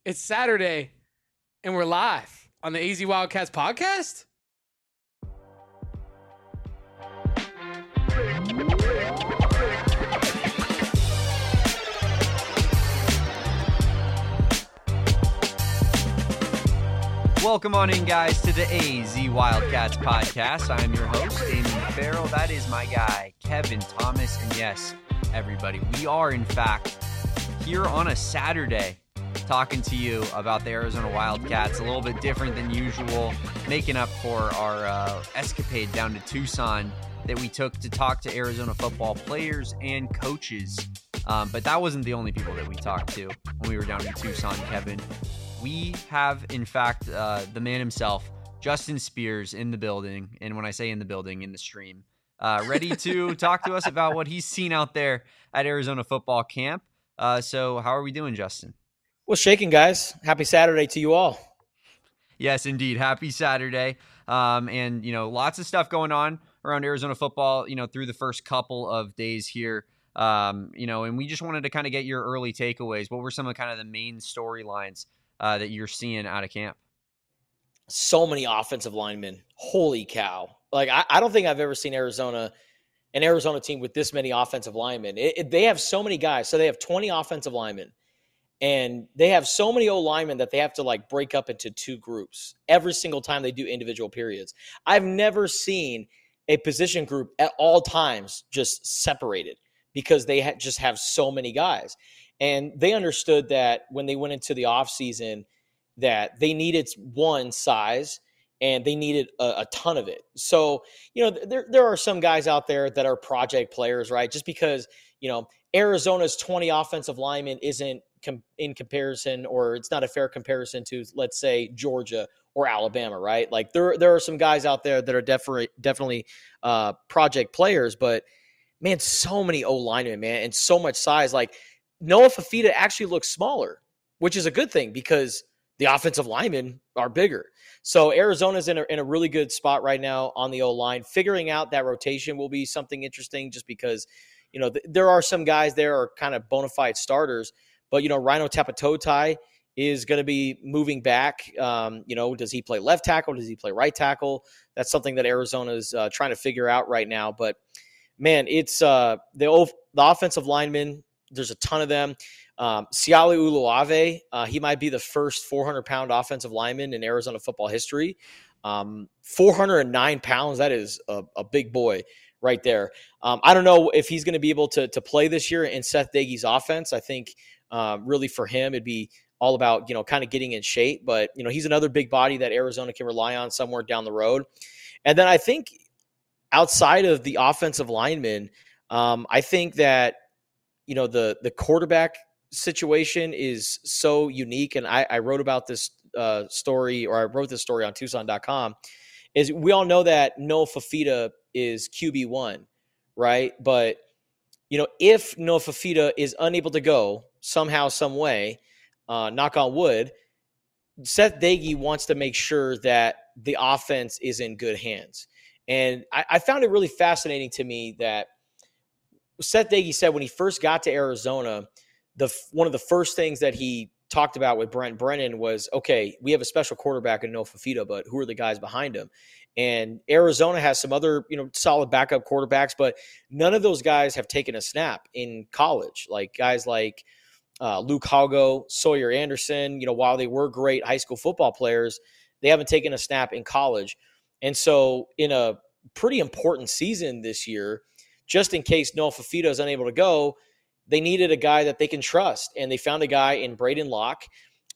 It's Saturday, and we're live on the AZ Wildcats podcast. Welcome on in, guys, to the AZ Wildcats podcast. I'm your host, Damon Farrell. That is my guy, Kevin Thomas. And yes, everybody, we are, in fact, here on a Saturday talking to you about the Arizona Wildcats. A little bit different than usual, making up for our escapade down to Tucson that we took to talk to Arizona football players and coaches. But that wasn't the only people that we talked to when we were down in Tucson, Kevin. We have, in fact, the man himself, Justin Spears, in the building. And when I say in the building, in the stream, ready to talk to us about what he's seen out there at Arizona football camp. So how are we doing, Justin? Well, shaking, guys. Happy Saturday to you all. Yes, indeed. Happy Saturday. And, lots of stuff going on around Arizona football, through the first couple of days here. And we just wanted to kind of get your early takeaways. What were some of kind of the main storylines that you're seeing out of camp? So many offensive linemen. Holy cow. Like, I don't think I've ever seen an Arizona team with this many offensive linemen. They have so many guys. So they have 20 offensive linemen. And they have so many O-linemen that they have to break up into two groups every single time they do individual periods. I've never seen a position group at all times just separated because they just have so many guys. And they understood that when they went into the offseason that they needed one size and they needed a ton of it. So, there are some guys out there that are project players, right? Just because, Arizona's 20 offensive linemen isn't in comparison, or it's not a fair comparison to, let's say, Georgia or Alabama, right? Like there are some guys out there that are definitely project players, but man, so many O-linemen, man, and so much size. Like Noah Fifita actually looks smaller, which is a good thing because the offensive linemen are bigger. So Arizona's in a really good spot right now on the O-line. Figuring out that rotation will be something interesting just because, there are some guys there are kind of bona fide starters. But, Rhino Tapatotai is going to be moving back. Does he play left tackle? Does he play right tackle? That's something that Arizona is trying to figure out right now. But, man, it's the offensive linemen. There's a ton of them. Siale Uluave, he might be the first 400-pound offensive lineman in Arizona football history. 409 pounds, that is a big boy right there. I don't know if he's going to be able to play this year in Seth Doege's offense. I think really for him, it'd be all about, kind of getting in shape. But, he's another big body that Arizona can rely on somewhere down the road. And then I think outside of the offensive linemen, I think that, the quarterback situation is so unique. And I wrote about this story, or I wrote this story on Tucson.com, is we all know that Noah Fifita is QB1, right? But, if Noah Fifita is unable to go somehow, some way, knock on wood, Seth Doege wants to make sure that the offense is in good hands. And I found it really fascinating to me that Seth Doege said when he first got to Arizona, one of the first things that he talked about with Brent Brennan was, okay, we have a special quarterback in Noah Fifita, but who are the guys behind him? And Arizona has some other, solid backup quarterbacks, but none of those guys have taken a snap in college. Like guys like Luke Hago, Sawyer Anderson, while they were great high school football players, they haven't taken a snap in college. And so in a pretty important season this year, just in case Noah Fifita is unable to go, they needed a guy that they can trust. And they found a guy in Braden Locke,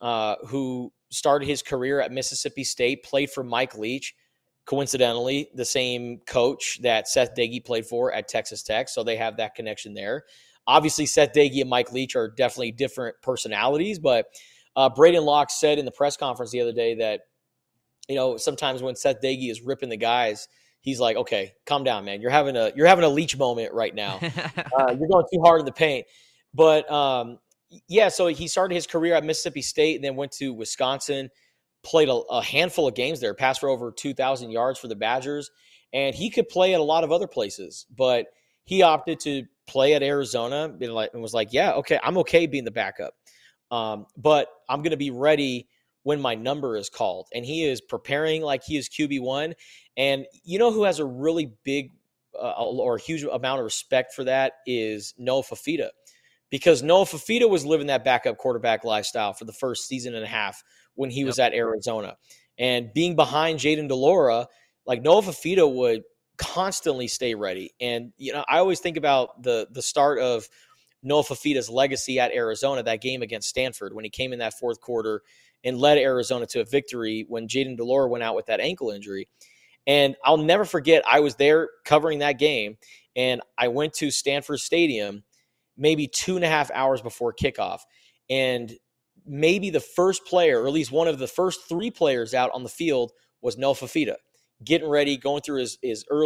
who started his career at Mississippi State, played for Mike Leach, coincidentally, the same coach that Seth Doege played for at Texas Tech. So they have that connection there. Obviously, Seth Doege and Mike Leach are definitely different personalities, but Braden Locke said in the press conference the other day that, sometimes when Seth Doege is ripping the guys, he's like, okay, calm down, man. You're having a Leach moment right now. You're going too hard in the paint. But, so he started his career at Mississippi State and then went to Wisconsin, played a handful of games there, passed for over 2,000 yards for the Badgers. And he could play at a lot of other places, but he opted to play at Arizona and was like, yeah, okay, I'm okay being the backup. But I'm going to be ready when my number is called. And he is preparing like he is QB1. And you know who has a really big or huge amount of respect for that is Noah Fafita. Because Noah Fafita was living that backup quarterback lifestyle for the first season and a half when he was at Arizona. And being behind Jayden de Laura, like Noah Fafita would constantly stay ready. And, you know, I always think about the start of Noah Fafita's legacy at Arizona, that game against Stanford when he came in that fourth quarter and led Arizona to a victory when Jayden de Laura went out with that ankle injury. And I'll never forget, I was there covering that game, and I went to Stanford Stadium maybe 2.5 hours before kickoff. And maybe the first player, or at least one of the first 3 players out on the field was Noah Fafita, getting ready, going through his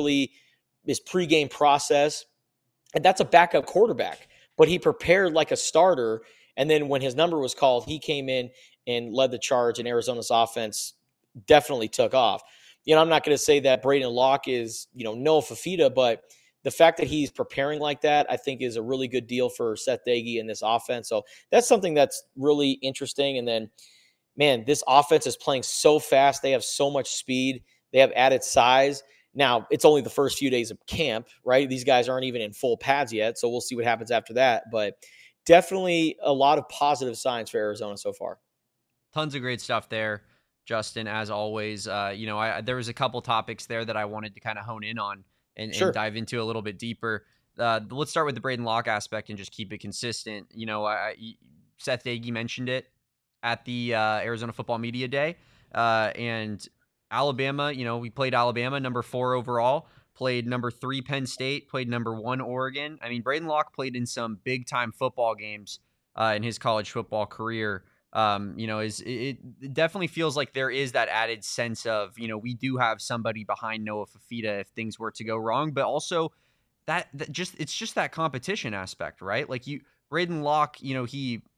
pregame process. And that's a backup quarterback, but he prepared like a starter. And then when his number was called, he came in and led the charge, and Arizona's offense definitely took off. You know, I'm not going to say that Braden Locke is, you know, Noah Fafita, but the fact that he's preparing like that, I think, is a really good deal for Seth Doege in this offense. So that's something that's really interesting. And then, man, this offense is playing so fast. They have so much speed. They have added size. Now, it's only the first few days of camp, right? These guys aren't even in full pads yet, so we'll see what happens after that. But definitely a lot of positive signs for Arizona so far. Tons of great stuff there, Justin, as always. You know, there was a couple topics there that I wanted to kind of hone in on and dive into a little bit deeper. Let's start with the Braden Locke aspect and just keep it consistent. You know, Seth Doege mentioned it at the Arizona Football Media Day. And Alabama, you know, we played Alabama, number 4 overall, played number 3 Penn State, played number 1 Oregon. I mean, Braden Locke played in some big-time football games in his college football career. You know, it definitely feels like there is that added sense of, you know, we do have somebody behind Noah Fafita if things were to go wrong, but also it's just that competition aspect, right? Like Braden Locke, you know,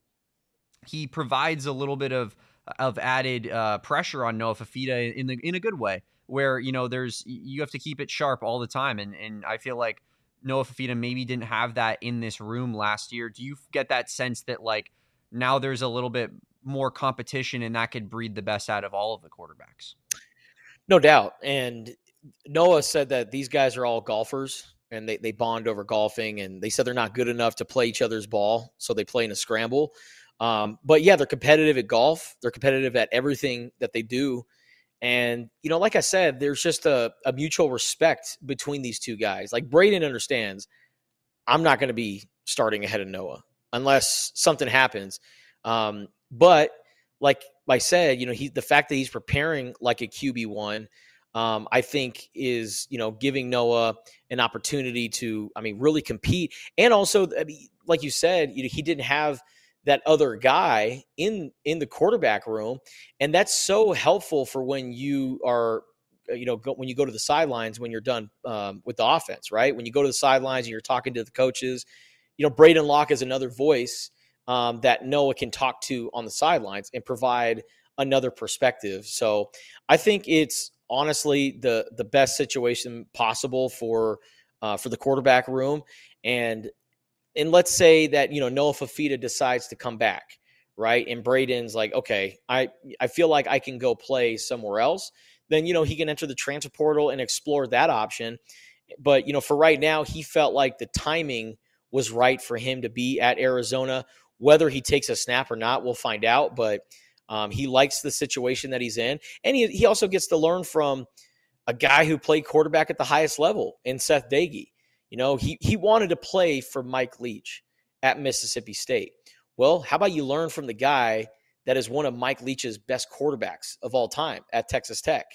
he provides a little bit of added pressure on Noah Fafita in a good way, where, you know, you have to keep it sharp all the time, and I feel like Noah Fafita maybe didn't have that in this room last year. Do you get that sense that, like, now there's a little bit more competition and that could breed the best out of all of the quarterbacks? No doubt. And Noah said that these guys are all golfers and they bond over golfing, and they said they're not good enough to play each other's ball, so they play in a scramble. But yeah, they're competitive at golf. They're competitive at everything that they do. And, you know, like I said, there's just a mutual respect between these two guys. Like, Braden understands, I'm not going to be starting ahead of Noah unless something happens. But like I said, you know, the fact that he's preparing like a QB1, I think is, you know, giving Noah an opportunity to, I mean, really compete. And also, I mean, like you said, you know, he didn't have that other guy in the quarterback room. And that's so helpful for when you are, you know, when you go to the sidelines, when you're done with the offense, right? When you go to the sidelines and you're talking to the coaches, you know, Braden Locke is another voice that Noah can talk to on the sidelines and provide another perspective. So I think it's honestly the best situation possible for the quarterback room. And let's say that, you know, Noah Fafita decides to come back, right? And Braden's like, okay, I feel like I can go play somewhere else. Then, you know, he can enter the transfer portal and explore that option. But, you know, for right now, he felt like the timing was right for him to be at Arizona. Whether he takes a snap or not, we'll find out. But he likes the situation that he's in. And he also gets to learn from a guy who played quarterback at the highest level in Seth Doege. You know, he wanted to play for Mike Leach at Mississippi State. Well, how about you learn from the guy that is one of Mike Leach's best quarterbacks of all time at Texas Tech?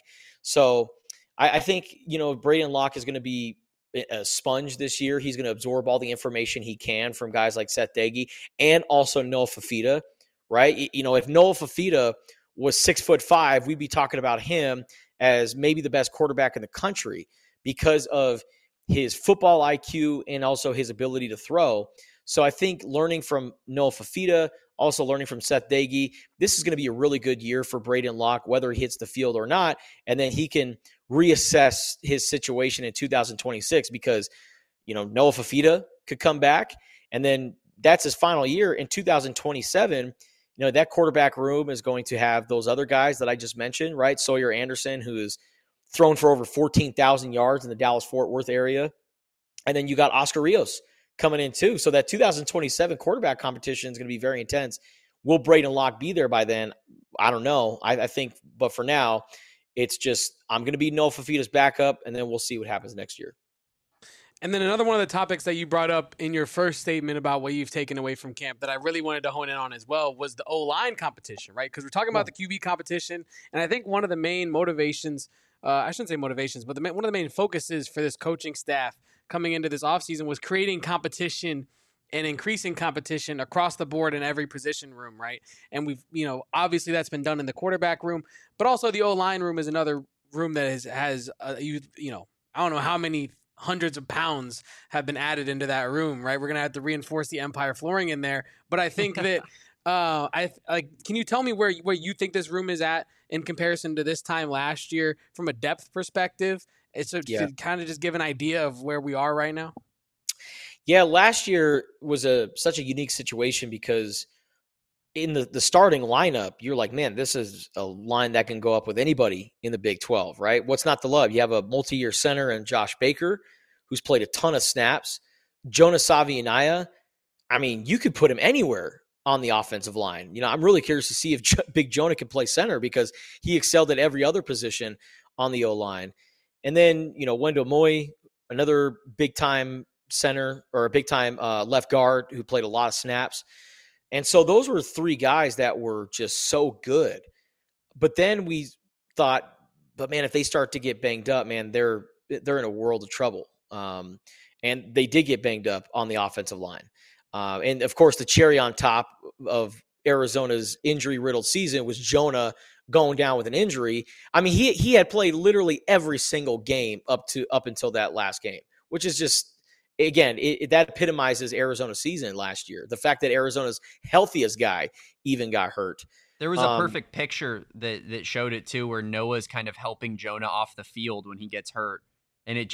So I think, you know, Braden Locke is going to be a sponge this year. He's going to absorb all the information he can from guys like Seth Doege and also Noah Fafita, right? You know, if Noah Fafita was 6'5", we'd be talking about him as maybe the best quarterback in the country because of his football IQ and also his ability to throw. So I think learning from Noah Fafita, also learning from Seth Doege, this is going to be a really good year for Braden Locke, whether he hits the field or not. And then he can reassess his situation in 2026 because, you know, Noah Fafita could come back, and then that's his final year. In 2027, that quarterback room is going to have those other guys that I just mentioned, right? Sawyer Anderson, who is thrown for over 14,000 yards in the Dallas-Fort Worth area. And then you got Oscar Rios coming in too. So that 2027 quarterback competition is going to be very intense. Will Braden Locke be there by then? I don't know. I think, but for now, it's just I'm going to be Noah Fafita's backup, and then we'll see what happens next year. And then another one of the topics that you brought up in your first statement about what you've taken away from camp that I really wanted to hone in on as well was the O-line competition, right? Because we're talking about the QB competition, and I think one of the main motivations, I shouldn't say motivations, but one of the main focuses for this coaching staff coming into this offseason was creating competition and increasing competition across the board in every position room, right? And we've, obviously that's been done in the quarterback room, but also the O-line room is another room that has I don't know how many hundreds of pounds have been added into that room, right? We're going to have to reinforce the Empire flooring in there. But I think that, can you tell me where you think this room is at in comparison to this time last year from a depth perspective? It's to kind of just give an idea of where we are right now. Yeah, last year was such a unique situation because in the starting lineup, you're like, man, this is a line that can go up with anybody in the Big 12, right? What's not to love? You have a multi-year center and Josh Baker, who's played a ton of snaps. Jonah Savianaya, I mean, you could put him anywhere on the offensive line. I'm really curious to see if Big Jonah can play center because he excelled at every other position on the O-line. And then, Wendell Moy, another big-time center or a big-time left guard who played a lot of snaps. And so those were three guys that were just so good. But then we thought, but man, if they start to get banged up, man, they're in a world of trouble. And they did get banged up on the offensive line. And of course, the cherry on top of Arizona's injury-riddled season was Jonah going down with an injury. I mean, he had played literally every single game up until that last game, which is just, again, that epitomizes Arizona's season last year. The fact that Arizona's healthiest guy even got hurt. There was a perfect picture that showed it too, where Noah's kind of helping Jonah off the field when he gets hurt, and it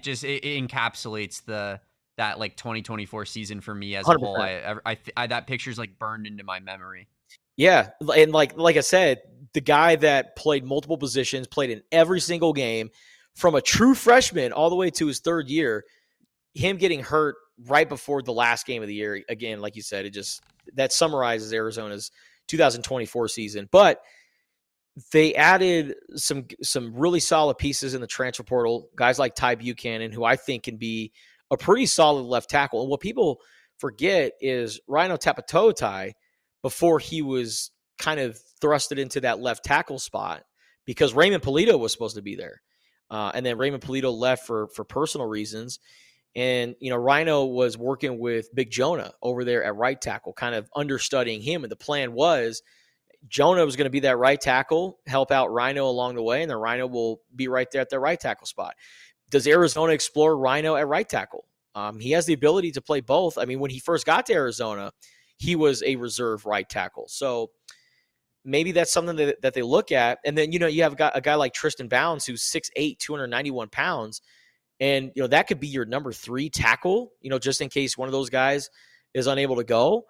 encapsulates that like 2024 season for me as 100%. A whole. I that picture's like burned into my memory. Yeah, and like I said, the guy that played multiple positions, played in every single game, from a true freshman all the way to his third year. Him getting hurt right before the last game of the year, again, like you said, that summarizes Arizona's 2024 season. But they added some really solid pieces in the transfer portal, guys like Ty Buchanan, who I think can be a pretty solid left tackle. And what people forget is Rhino Tapatotai, before he was kind of thrusted into that left tackle spot, because Raymond Polito was supposed to be there. And then Raymond Polito left for personal reasons. And, Rhino was working with Big Jonah over there at right tackle, kind of understudying him. And the plan was Jonah was going to be that right tackle, help out Rhino along the way, and then Rhino will be right there at the right tackle spot. Does Arizona explore Rhino at right tackle? He has the ability to play both. I mean, when he first got to Arizona, he was a reserve right tackle. So maybe that's something that they look at. And then, you have a guy like Tristan Bounds, who's 6'8", 291 pounds. And, that could be your number 3 tackle, just in case one of those guys is unable to go.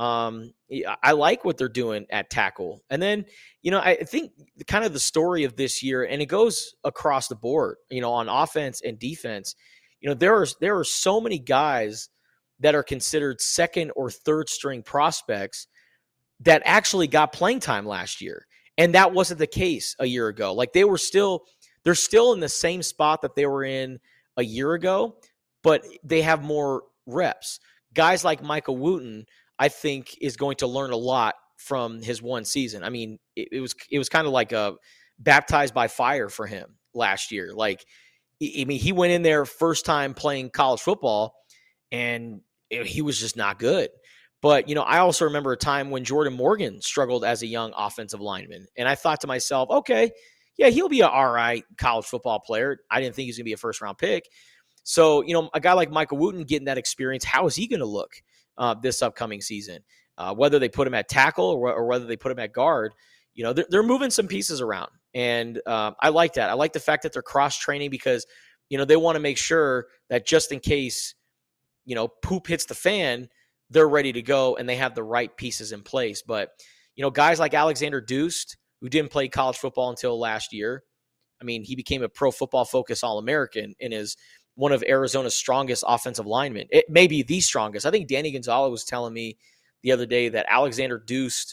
I like what they're doing at tackle. And then, I think kind of the story of this year, and it goes across the board, on offense and defense, there are so many guys that are considered second or third string prospects that actually got playing time last year. And that wasn't the case a year ago. Like they're still in the same spot that they were in a year ago, but they have more reps. Guys like Michael Wooten, I think, is going to learn a lot from his one season. I mean, it was kind of like a baptized by fire for him last year. Like, I mean, he went in there first time playing college football, and he was just not good. But, I also remember a time when Jordan Morgan struggled as a young offensive lineman. And I thought to myself, okay, yeah, he'll be an all right college football player. I didn't think he was going to be a first-round pick. So, a guy like Michael Wooten getting that experience, how is he going to look this upcoming season? Whether they put him at tackle or whether they put him at guard, they're moving some pieces around. And I like that. I like the fact that they're cross-training because, they want to make sure that just in case, poop hits the fan, they're ready to go and they have the right pieces in place. But, guys like Alexander Deuce, who didn't play college football until last year. I mean, he became a Pro Football Focus All-American and is one of Arizona's strongest offensive linemen. It may be the strongest. I think Danny Gonzalez was telling me the other day that Alexander Deuce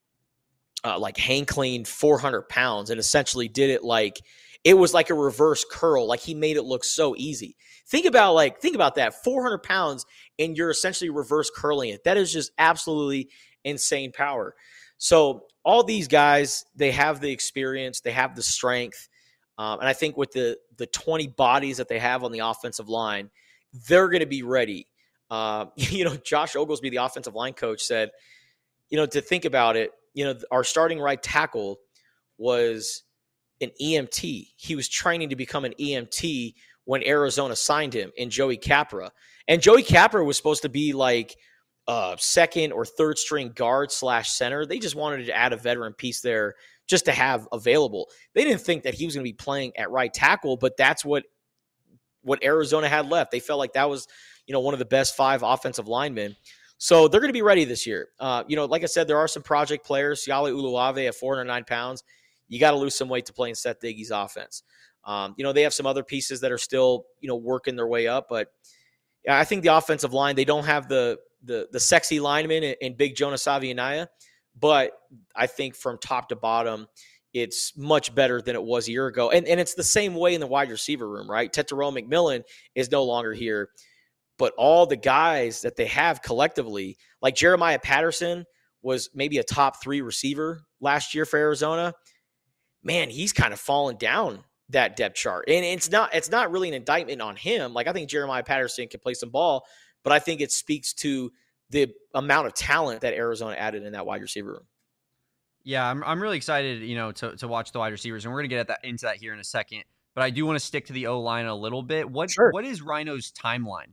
hang cleaned 400 pounds and essentially did it like it was like a reverse curl. Like he made it look so easy. Think about that 400 pounds and you're essentially reverse curling it. That is just absolutely insane power. So all these guys, they have the experience, they have the strength. And I think with the 20 bodies that they have on the offensive line, they're going to be ready. Josh Oglesby, the offensive line coach, said, to think about it, our starting right tackle was an EMT. He was training to become an EMT when Arizona signed him in Joey Capra. And Joey Capra was supposed to be like second or third string guard / center. They just wanted to add a veteran piece there just to have available. They didn't think that he was going to be playing at right tackle, but that's what Arizona had left. They felt like that was, one of the best 5 offensive linemen. So they're going to be ready this year. Like I said, there are some project players. Siale Uluave at 409 pounds. You got to lose some weight to play in Seth Diggy's offense. They have some other pieces that are still, working their way up. But yeah, I think the offensive line, they don't have the sexy lineman in Big Jonas Avianaya. But I think from top to bottom, it's much better than it was a year ago. And it's the same way in the wide receiver room, right? Tetairoa McMillan is no longer here. But all the guys that they have collectively, like Jeremiah Patterson was maybe a top 3 receiver last year for Arizona. Man, he's kind of fallen down that depth chart. And it's not really an indictment on him. Like I think Jeremiah Patterson can play some ball, but I think it speaks to the amount of talent that Arizona added in that wide receiver room. Yeah, I'm really excited, to watch the wide receivers, and we're going to get into that here in a second. But I do want to stick to the O-line a little bit. What is Rhino's timeline?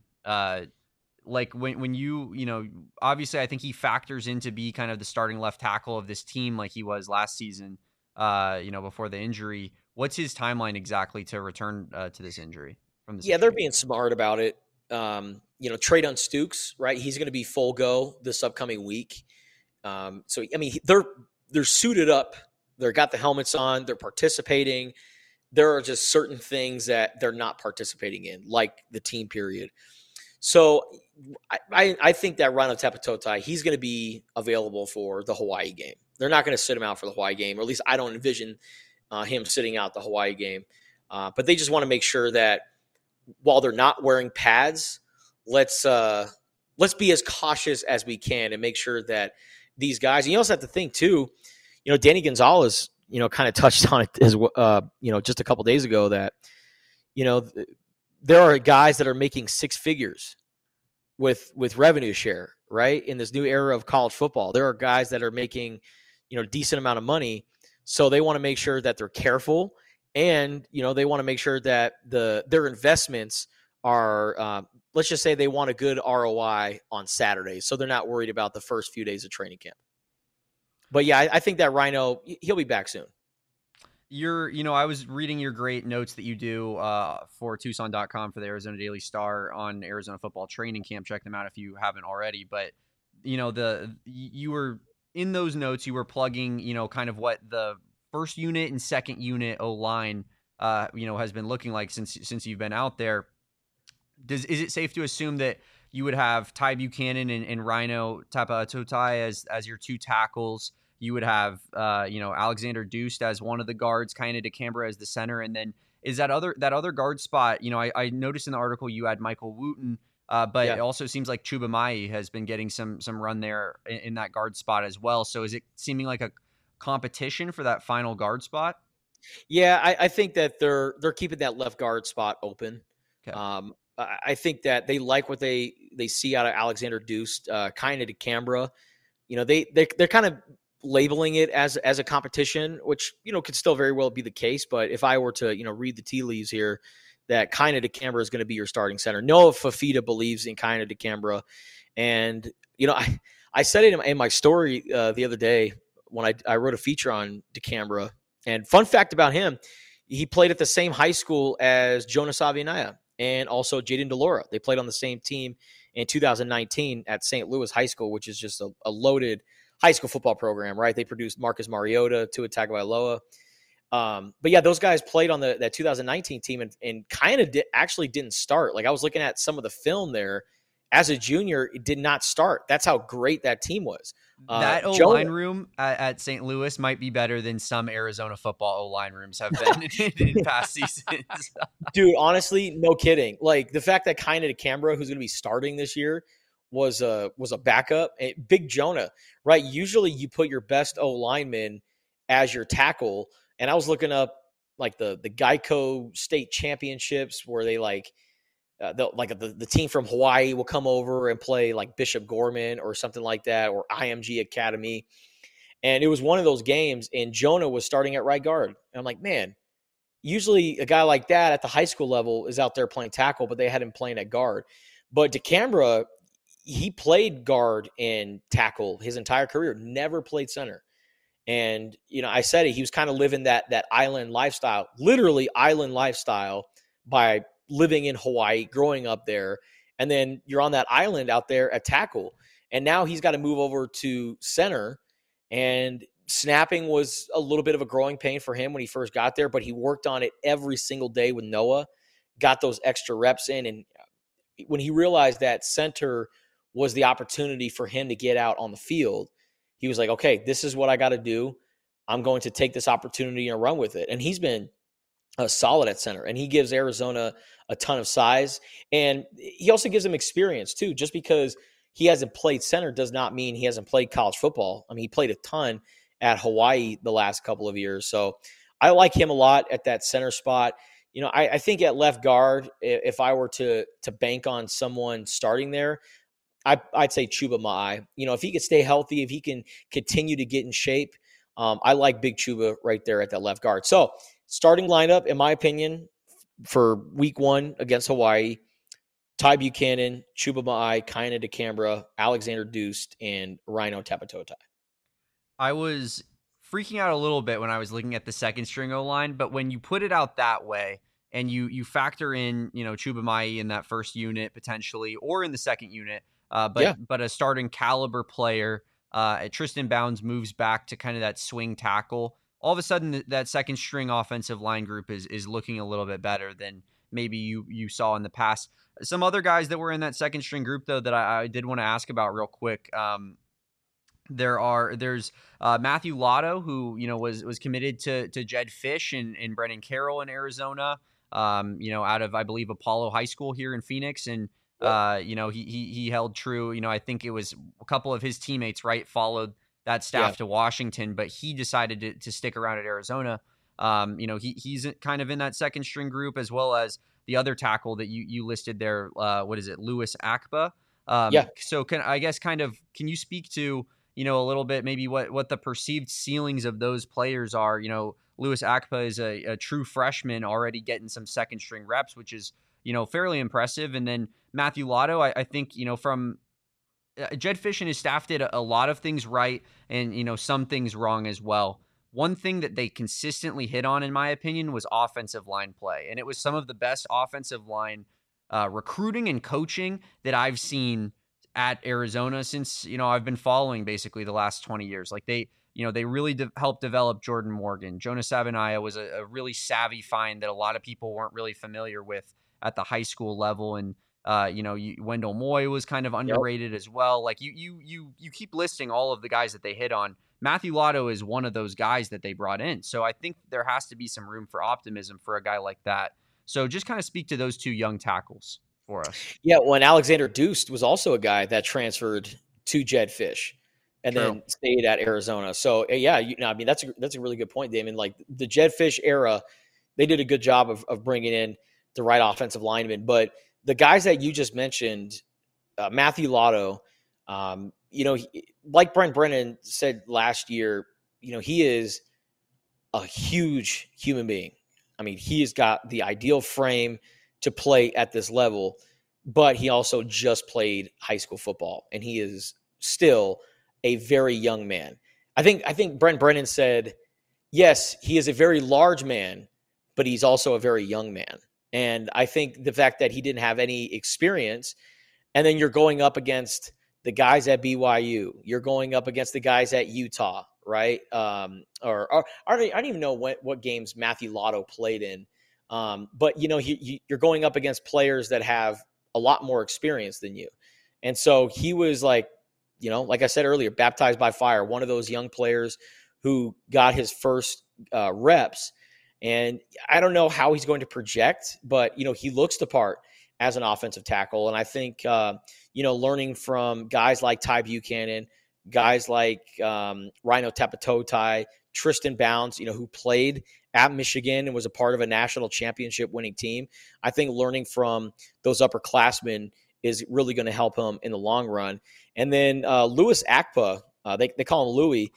Like when you obviously I think he factors in to be kind of the starting left tackle of this team like he was last season, before the injury. What's his timeline exactly to return to this injury from this? Yeah, they're being smart about it. Treydon Stukes, right? He's going to be full go this upcoming week. So, I mean, they're suited up. They've got the helmets on. They're participating. There are just certain things that they're not participating in, like the team period. So I think that Rhino Tapatotai, he's going to be available for the Hawaii game. They're not going to sit him out for the Hawaii game, or at least I don't envision him sitting out the Hawaii game. But they just want to make sure that while they're not wearing pads, let's be as cautious as we can and make sure that these guys, and you also have to think too, Danny Gonzalez, kind of touched on it as just a couple days ago that, there are guys that are making 6 figures with revenue share, right? In this new era of college football, there are guys that are making, decent amount of money. So they want to make sure that they're careful, and, they want to make sure that their investments are, let's just say they want a good ROI on Saturday. So they're not worried about the first few days of training camp. But yeah, I think that Rhino, he'll be back soon. I was reading your great notes that you do for Tucson.com for the Arizona Daily Star on Arizona football training camp. Check them out if you haven't already. But, you were in those notes, you were plugging, kind of what the first unit and second unit O-line, has been looking like since you've been out there. Is it safe to assume that you would have Ty Buchanan and Rhino Tapatotai as your 2 tackles? You would have, Alexander Deuce as one of the guards, Kaina DeCambra as the center. And then is that other guard spot, I noticed in the article you had Michael Wooten, but It also seems like Chuba Mai has been getting some run there in that guard spot as well. So is it seeming like a competition for that final guard spot? Yeah, I think that they're keeping that left guard spot open. Okay. I think that they like what they see out of Alexander Deuce, Kaina DeCambra. They're kind of labeling it as a competition, which, could still very well be the case. But if I were to, read the tea leaves here, that Kaina DeCambra is going to be your starting center. Noah Fafita believes in Kaina DeCambra. And, I said it in my story the other day when I wrote a feature on DeCambra. And fun fact about him, he played at the same high school as Jonas Avianaya and also Jaden DeLora. They played on the same team in 2019 at St. Louis High School, which is just a loaded high school football program, right? They produced Marcus Mariota, Tua Tagovailoa. But yeah, those guys played on that 2019 team and kind of actually didn't start. Like I was looking at some of the film there. As a junior, it did not start. That's how great that team was. That O-line room at St. Louis might be better than some Arizona football O-line rooms have been in past seasons. Dude, honestly, no kidding. Like the fact that Kiner DeCambra, who's going to be starting this year, was a backup. Big Jonah, right? Usually you put your best O-lineman as your tackle. And I was looking up like the Geico state championships where they the team from Hawaii will come over and play like Bishop Gorman or something like that, or IMG Academy. And it was one of those games, and Jonah was starting at right guard. And I'm like, man, usually a guy like that at the high school level is out there playing tackle, but they had him playing at guard. But DeCambra, he played guard and tackle his entire career, never played center. And, I said it, he was kind of living that island lifestyle, literally island lifestyle, by living in Hawaii, growing up there, and then you're on that island out there at tackle. And now he's got to move over to center, and snapping was a little bit of a growing pain for him when he first got there, but he worked on it every single day with Noah, got those extra reps in. And when he realized that center was the opportunity for him to get out on the field, he was like, okay, this is what I got to do. I'm going to take this opportunity and run with it. And he's been solid at center, and he gives Arizona a ton of size, and he also gives them experience too. Just because he hasn't played center does not mean he hasn't played college football. I mean, he played a ton at Hawaii the last couple of years. So I like him a lot at that center spot. I think at left guard, if I were to bank on someone starting there, I'd say Chuba Ma'ai. If he could stay healthy, if he can continue to get in shape, I like Big Chuba right there at that left guard. So starting lineup, in my opinion, for week 1 against Hawaii, Ty Buchanan, Chuba Ma'ai, Kiner DeCambra, Alexander Deuce, and Rhino Tapatotai. I was freaking out a little bit when I was looking at the second string O-line, but when you put it out that way and you factor in, Chuba Ma'ai in that first unit potentially, or in the second unit, but a starting caliber player, Tristan Bounds moves back to kind of that swing tackle. All of a sudden, that second string offensive line group is looking a little bit better than maybe you saw in the past. Some other guys that were in that second string group, though, that I did want to ask about real quick. There's Matthew Lotto, who was committed to Jedd Fisch and Brennan Carroll in Arizona. Out of, I believe, Apollo High School here in Phoenix, and he held true. I think it was a couple of his teammates, right, followed that staff to Washington, but he decided to stick around at Arizona. He's kind of in that second string group, as well as the other tackle that you listed there. What is it? Louis Akpa. So can you speak to, a little bit, maybe what the perceived ceilings of those players are? Louis Akpa is a true freshman already getting some second string reps, which is, fairly impressive. And then Matthew Lotto, I think, from Jedd Fisch and his staff did a lot of things right and, some things wrong as well. One thing that they consistently hit on, in my opinion, was offensive line play. And it was some of the best offensive line recruiting and coaching that I've seen at Arizona since, I've been following basically the last 20 years. Like they really helped develop Jordan Morgan. Jonah Savanaya was a really savvy find that a lot of people weren't really familiar with at the high school level. And, Wendell Moy was kind of underrated as well. Like you keep listing all of the guys that they hit on. Matthew Lotto is one of those guys that they brought in. So I think there has to be some room for optimism for a guy like that. So just kind of speak to those two young tackles for us. Yeah, when Alexander Deuce was also a guy that transferred to Jedd Fisch and then stayed at Arizona. So that's a really good point, Damon. Like the Jedd Fisch era, they did a good job of bringing in the right offensive lineman. But the guys that you just mentioned, Matthew Lotto, like Brent Brennan said last year, he is a huge human being. I mean, he has got the ideal frame to play at this level, but he also just played high school football, and he is still a very young man. I think Brent Brennan said, yes, he is a very large man, but he's also a very young man. And I think the fact that he didn't have any experience, and then you're going up against the guys at BYU. You're going up against the guys at Utah, right? Or I don't even know what games Matthew Lotto played in. But, you're going up against players that have a lot more experience than you. And so he was like I said earlier, baptized by fire, one of those young players who got his first reps. And I don't know how he's going to project, but, he looks the part as an offensive tackle. And I think, learning from guys like Ty Buchanan, guys like Rhino Tapatotai, Tristan Bounds, who played at Michigan and was a part of a national championship winning team. I think learning from those upperclassmen is really going to help him in the long run. And then Louis Akpa, they call him Louis.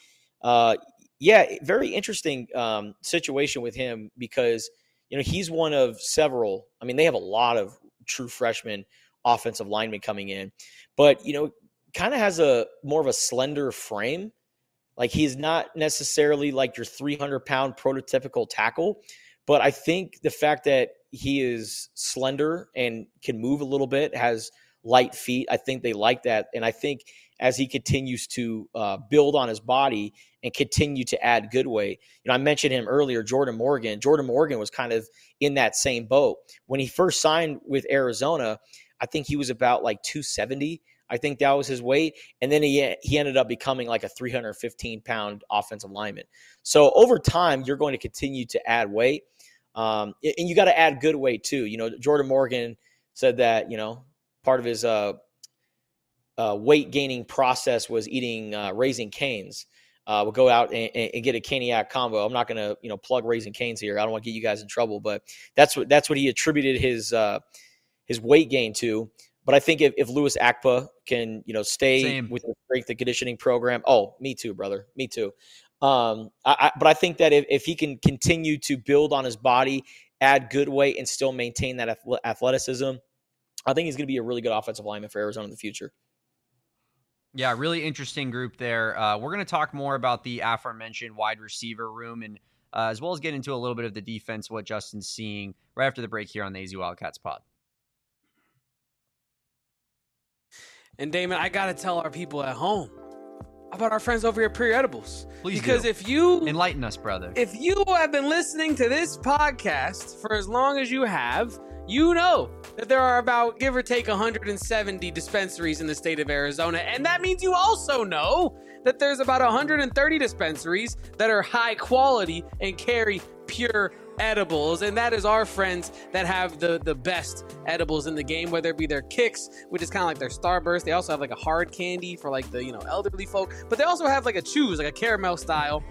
Very interesting situation with him because, he's one of several. I mean, they have a lot of true freshman offensive linemen coming in, but, kind of has a more of a slender frame. Like, he's not necessarily like your 300-pound prototypical tackle, but I think the fact that he is slender and can move a little bit, has light feet, I think they like that. And I think as he continues to build on his body and continue to add good weight, I mentioned him earlier, Jordan Morgan. Jordan Morgan was kind of in that same boat. When he first signed with Arizona, I think he was about like 270. I think that was his weight. And then he ended up becoming like a 315-pound offensive lineman. So over time, you're going to continue to add weight. And you got to add good weight too. Jordan Morgan said that, part of his weight gaining process was eating Raising Cane's. We'll go out and get a Caniac combo. I'm not going to, plug Raising Cane's here. I don't want to get you guys in trouble, but that's what he attributed his weight gain to. But I think if Louis Akpa can, stay with the strength and conditioning program. Oh, me too, brother. Me too. But I think that if he can continue to build on his body, add good weight, and still maintain that athleticism, I think he's going to be a really good offensive lineman for Arizona in the future. Yeah, really interesting group there. We're going to talk more about the aforementioned wide receiver room and as well as get into a little bit of the defense, what Justin's seeing right after the break here on the AZ Wildcats pod. And Damon, I got to tell our people at home about our friends over here at Pure Edibles. Please because do. If you enlighten us, brother. If you have been listening to this podcast for as long as you have, you know that there are about, give or take, 170 dispensaries in the state of Arizona. And that means you also know that there's about 130 dispensaries that are high quality and carry pure edibles. And that is our friends that have the best edibles in the game, whether it be their Kicks, which is kind of like their Starburst. They also have like a hard candy for like the, elderly folk, but they also have like a chews, like a caramel style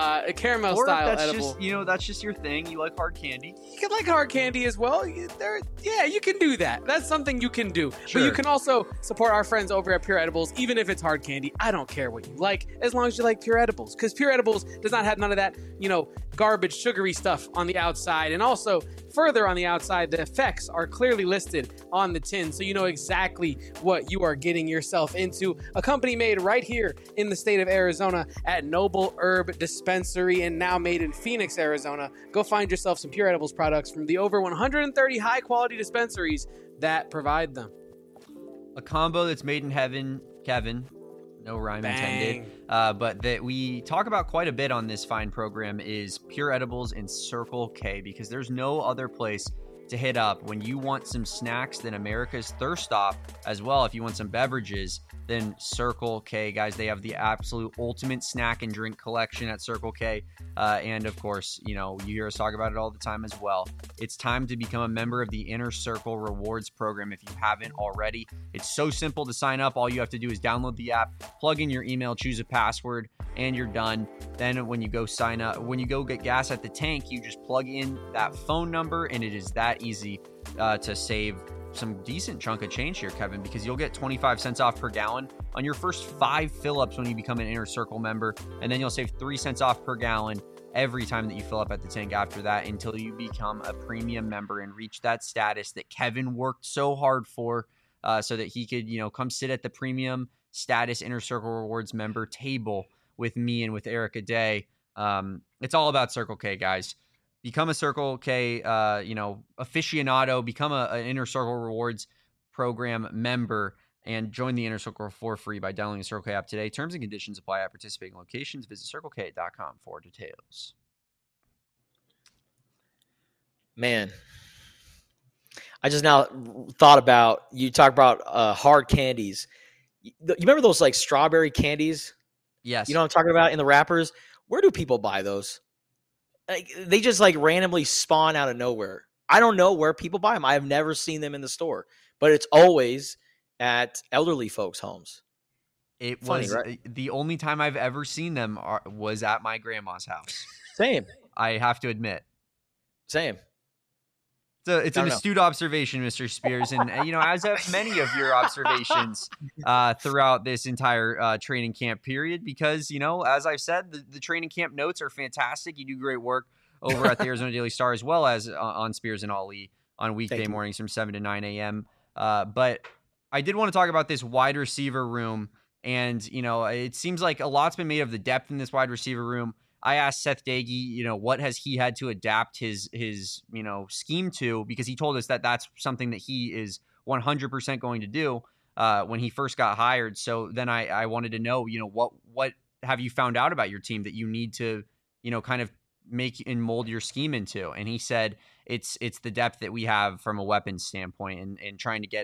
edible. That's just your thing. You like hard candy. You can like hard candy as well. You can do that. That's something you can do. Sure. But you can also support our friends over at Pure Edibles, even if it's hard candy. I don't care what you like, as long as you like Pure Edibles, because Pure Edibles does not have none of that, garbage, sugary stuff on the outside. And also, further on the outside, the effects are clearly listed on the tin, so you know exactly what you are getting yourself into. A company made right here in the state of Arizona at Noble Herb Dispensary, and now made in Phoenix, Arizona. Go find yourself some Pure Edibles products from the over 130 high-quality dispensaries that provide them. A combo that's made in heaven, Kevin. No rhyme intended. But that we talk about quite a bit on this fine program is Pure Edibles and Circle K, because there's no other place to hit up when you want some snacks than America's Thirst Stop. As well, if you want some beverages, then Circle K. Guys, they have the absolute ultimate snack and drink collection at Circle K. And of course, you hear us talk about it all the time as well. It's time to become a member of the Inner Circle Rewards program if you haven't already. It's so simple to sign up. All you have to do is download the app, plug in your email, choose a password, and you're done. Then when you go sign up, when you go get gas at the tank, you just plug in that phone number, and it is that easy to save some decent chunk of change here, Kevin, because you'll get 25 cents off per gallon on your first 5 fill-ups when you become an Inner Circle member, and then you'll save 3 cents off per gallon every time that you fill up at the tank after that until you become a premium member and reach that status that Kevin worked so hard for, so that he could, come sit at the premium status Inner Circle Rewards member table with me and with Erica Day. It's all about Circle K, guys. Become a Circle K, aficionado. Become an Inner Circle Rewards program member, and join the Inner Circle for free by downloading the Circle K app today. Terms and conditions apply at participating locations. Visit CircleK.com for details. Man, I just now thought about, you talk about hard candies. You remember those like strawberry candies? Yes. You know what I'm talking about in the wrappers? Where do people buy those? Like, they just like randomly spawn out of nowhere. I don't know where people buy them. I have never seen them in the store, but it's always at elderly folks' homes. It Funny, was right? The only time I've ever seen them was at my grandma's house. Same. I have to admit. Same. So it's an astute observation, Mr. Spears. And, as have many of your observations throughout this entire training camp period, because, as I've said, the training camp notes are fantastic. You do great work over at the Arizona Daily Star, as well as on Spears and Ali on weekday mornings from 7 to 9 a.m. But I did want to talk about this wide receiver room. And, it seems like a lot's been made of the depth in this wide receiver room. I asked Seth Doege, what has he had to adapt his scheme to, because he told us that that's something that he is 100% going to do when he first got hired. So then I wanted to know, what have you found out about your team that you need to, kind of make and mold your scheme into? And he said it's the depth that we have from a weapons standpoint, and trying to get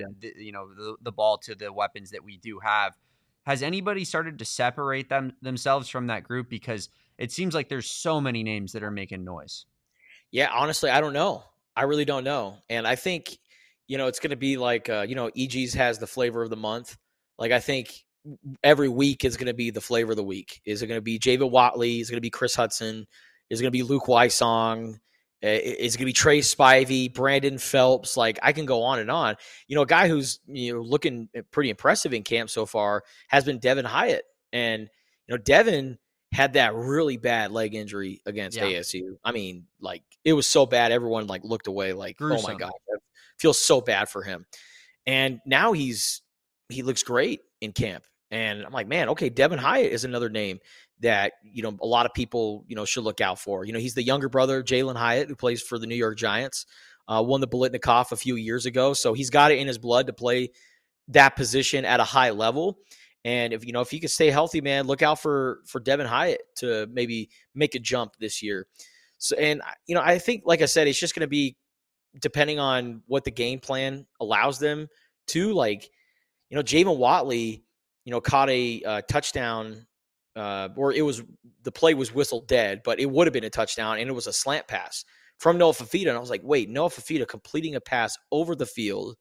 the ball to the weapons that we do have. Has anybody started to separate themselves from that group? Because it seems like there's so many names that are making noise. Yeah, honestly, I don't know. I really don't know. And I think, it's going to be like, EG's has the flavor of the month. Like, I think every week is going to be the flavor of the week. Is it going to be Javen Watley? Is it going to be Chris Hudson? Is it going to be Luke Wysong? Is it going to be Trey Spivey, Brandon Phelps? Like, I can go on and on. A guy who's looking pretty impressive in camp so far has been Devin Hyatt. And, Devin had that really bad leg injury against ASU. I mean, like, it was so bad. Everyone like looked away like, gruesome. Oh my God, I feel so bad for him. And now he looks great in camp. And I'm like, man, okay, Devin Hyatt is another name that, a lot of people, should look out for. He's the younger brother of Jalen Hyatt, who plays for the New York Giants, won the Biletnikoff a few years ago. So he's got it in his blood to play that position at a high level. And if he can stay healthy, man, look out for Devin Hyatt to maybe make a jump this year. So, and I think, like I said, it's just going to be depending on what the game plan allows them to. Like, Javen Watley, caught a touchdown, or the play was whistled dead, but it would have been a touchdown, and it was a slant pass from Noah Fifita. And I was like, wait, Noah Fifita completing a pass over the field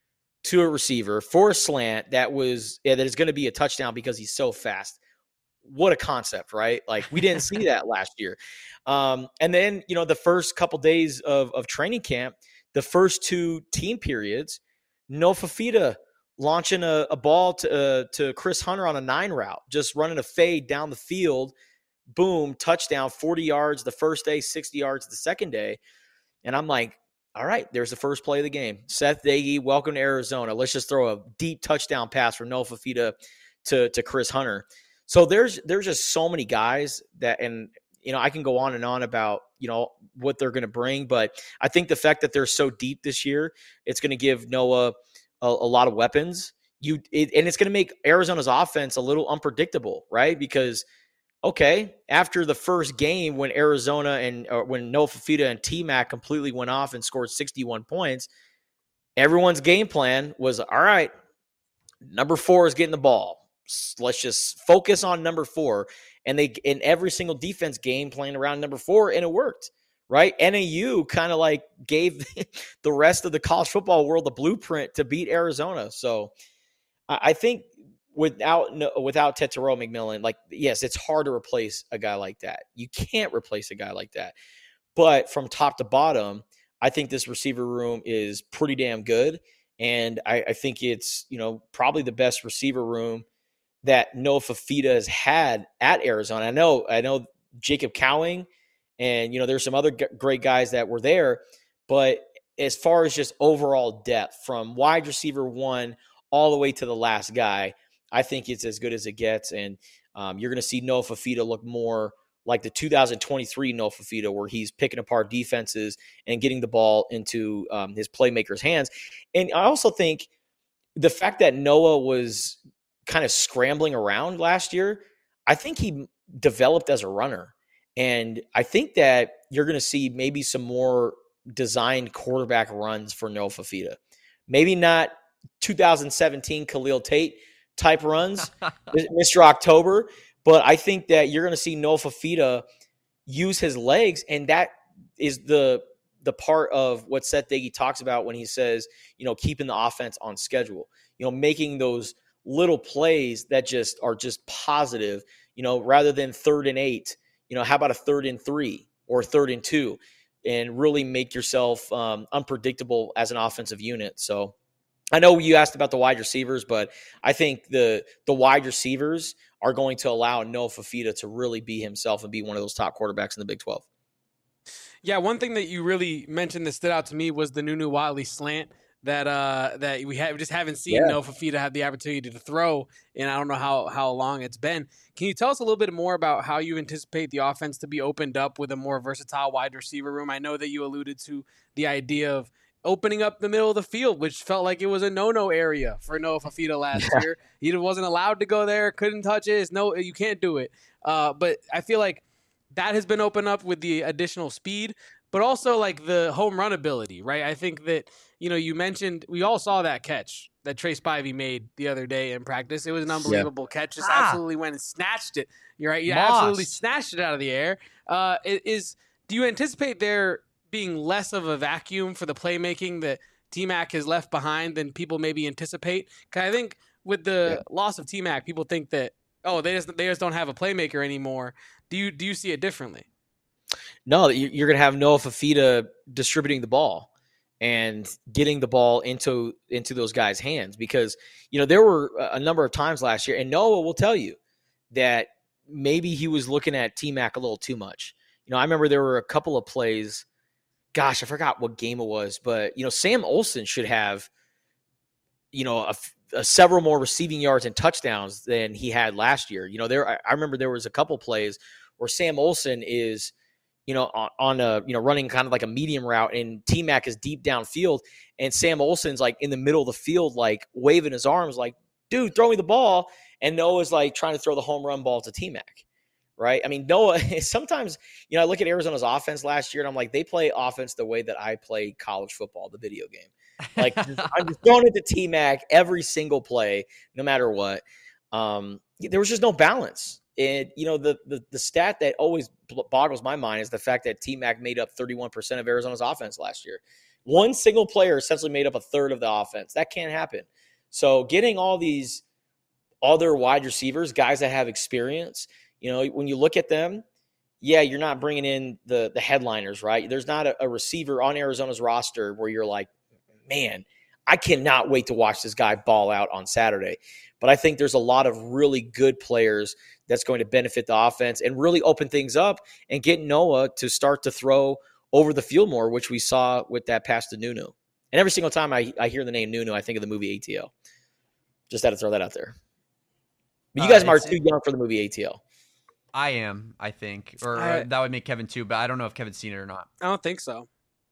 to a receiver for a slant that is going to be a touchdown because he's so fast. What a concept, right? Like, we didn't see that last year. And then, the first couple days of training camp, the first two team periods, Noah Fifita launching a ball to Chris Hunter on a 9 route, just running a fade down the field, boom, touchdown, 40 yards the first day, 60 yards the second day. And I'm like, all right, there's the first play of the game. Seth Doege, welcome to Arizona. Let's just throw a deep touchdown pass from Noah Fifita to Chris Hunter. So there's just so many guys that, and I can go on and on about what they're going to bring, but I think the fact that they're so deep this year, it's going to give Noah a lot of weapons. And it's going to make Arizona's offense a little unpredictable, right? Because okay, after the first game when Arizona and when Noah Fifita and T-Mac completely went off and scored 61 points, everyone's game plan was, all right, number 4 is getting the ball. Let's just focus on number 4. And in every single defense game playing around number 4, and it worked, right? NAU kind of like gave the rest of the college football world the blueprint to beat Arizona. So I think without Tetairoa McMillan, like, yes, it's hard to replace a guy like that. You can't replace a guy like that. But from top to bottom, I think this receiver room is pretty damn good. And I think it's, probably the best receiver room that Noah Fifita has had at Arizona. I know Jacob Cowing, and, there's some other great guys that were there. But as far as just overall depth from wide receiver 1 all the way to the last guy, I think it's as good as it gets. And you're going to see Noah Fifita look more like the 2023 Noah Fifita, where he's picking apart defenses and getting the ball into his playmakers' hands. And I also think the fact that Noah was kind of scrambling around last year, I think he developed as a runner. And I think that you're going to see maybe some more designed quarterback runs for Noah Fifita. Maybe not 2017 Khalil Tate type runs, Mr. October, but I think that you're going to see Noah Fifita use his legs, and that is the part of what Seth Diggy talks about when he says, keeping the offense on schedule, making those little plays that just are just positive, rather than 3rd and 8, how about a 3rd and 3 or 3rd and 2, and really make yourself unpredictable as an offensive unit. So I know you asked about the wide receivers, but I think the wide receivers are going to allow Noah Fifita to really be himself and be one of those top quarterbacks in the Big 12. Yeah, one thing that you really mentioned that stood out to me was the Nunu Watley slant that we just haven't seen Noah Fifita have the opportunity to throw, and I don't know how long it's been. Can you tell us a little bit more about how you anticipate the offense to be opened up with a more versatile wide receiver room? I know that you alluded to the idea of opening up the middle of the field, which felt like it was a no-no area for Noah Fifita last year. He wasn't allowed to go there, couldn't touch it. No, you can't do it. But I feel like that has been opened up with the additional speed, but also like the home run ability, right? I think that, you mentioned, we all saw that catch that Trey Spivey made the other day in practice. It was an unbelievable catch. Just absolutely went and snatched it. You're right. You absolutely snatched it out of the air. Do you anticipate there being less of a vacuum for the playmaking that T-Mac has left behind than people maybe anticipate? Because I think with the loss of T-Mac, people think that, they just don't have a playmaker anymore. Do you see it differently? No, you're going to have Noah Fifita distributing the ball and getting the ball into those guys' hands, because there were a number of times last year, and Noah will tell you that maybe he was looking at T-Mac a little too much. I remember there were a couple of plays. Gosh, I forgot what game it was, but Sam Olsen should have several more receiving yards and touchdowns than he had last year. I remember there was a couple plays where Sam Olsen is on a running kind of like a medium route, and T-Mac is deep downfield, and Sam Olsen's like in the middle of the field, like waving his arms, like, dude, throw me the ball. And Noah's like trying to throw the home run ball to T-Mac. Right. I mean, Noah, sometimes, I look at Arizona's offense last year and I'm like, they play offense the way that I play college football, the video game. Like, I'm just throwing it to T-Mac every single play, no matter what. There was just no balance. And, the stat that always boggles my mind is the fact that T-Mac made up 31% of Arizona's offense last year. One single player essentially made up a third of the offense. That can't happen. So getting all these other wide receivers, guys that have experience, when you look at them, you're not bringing in the headliners, right? There's not a receiver on Arizona's roster where you're like, man, I cannot wait to watch this guy ball out on Saturday. But I think there's a lot of really good players that's going to benefit the offense and really open things up and get Noah to start to throw over the field more, which we saw with that pass to Nunu. And every single time I hear the name Nunu, I think of the movie ATL. Just had to throw that out there. But you guys are too young for the movie ATL. I am, I think. Or that would make Kevin too, but I don't know if Kevin's seen it or not. I don't think so.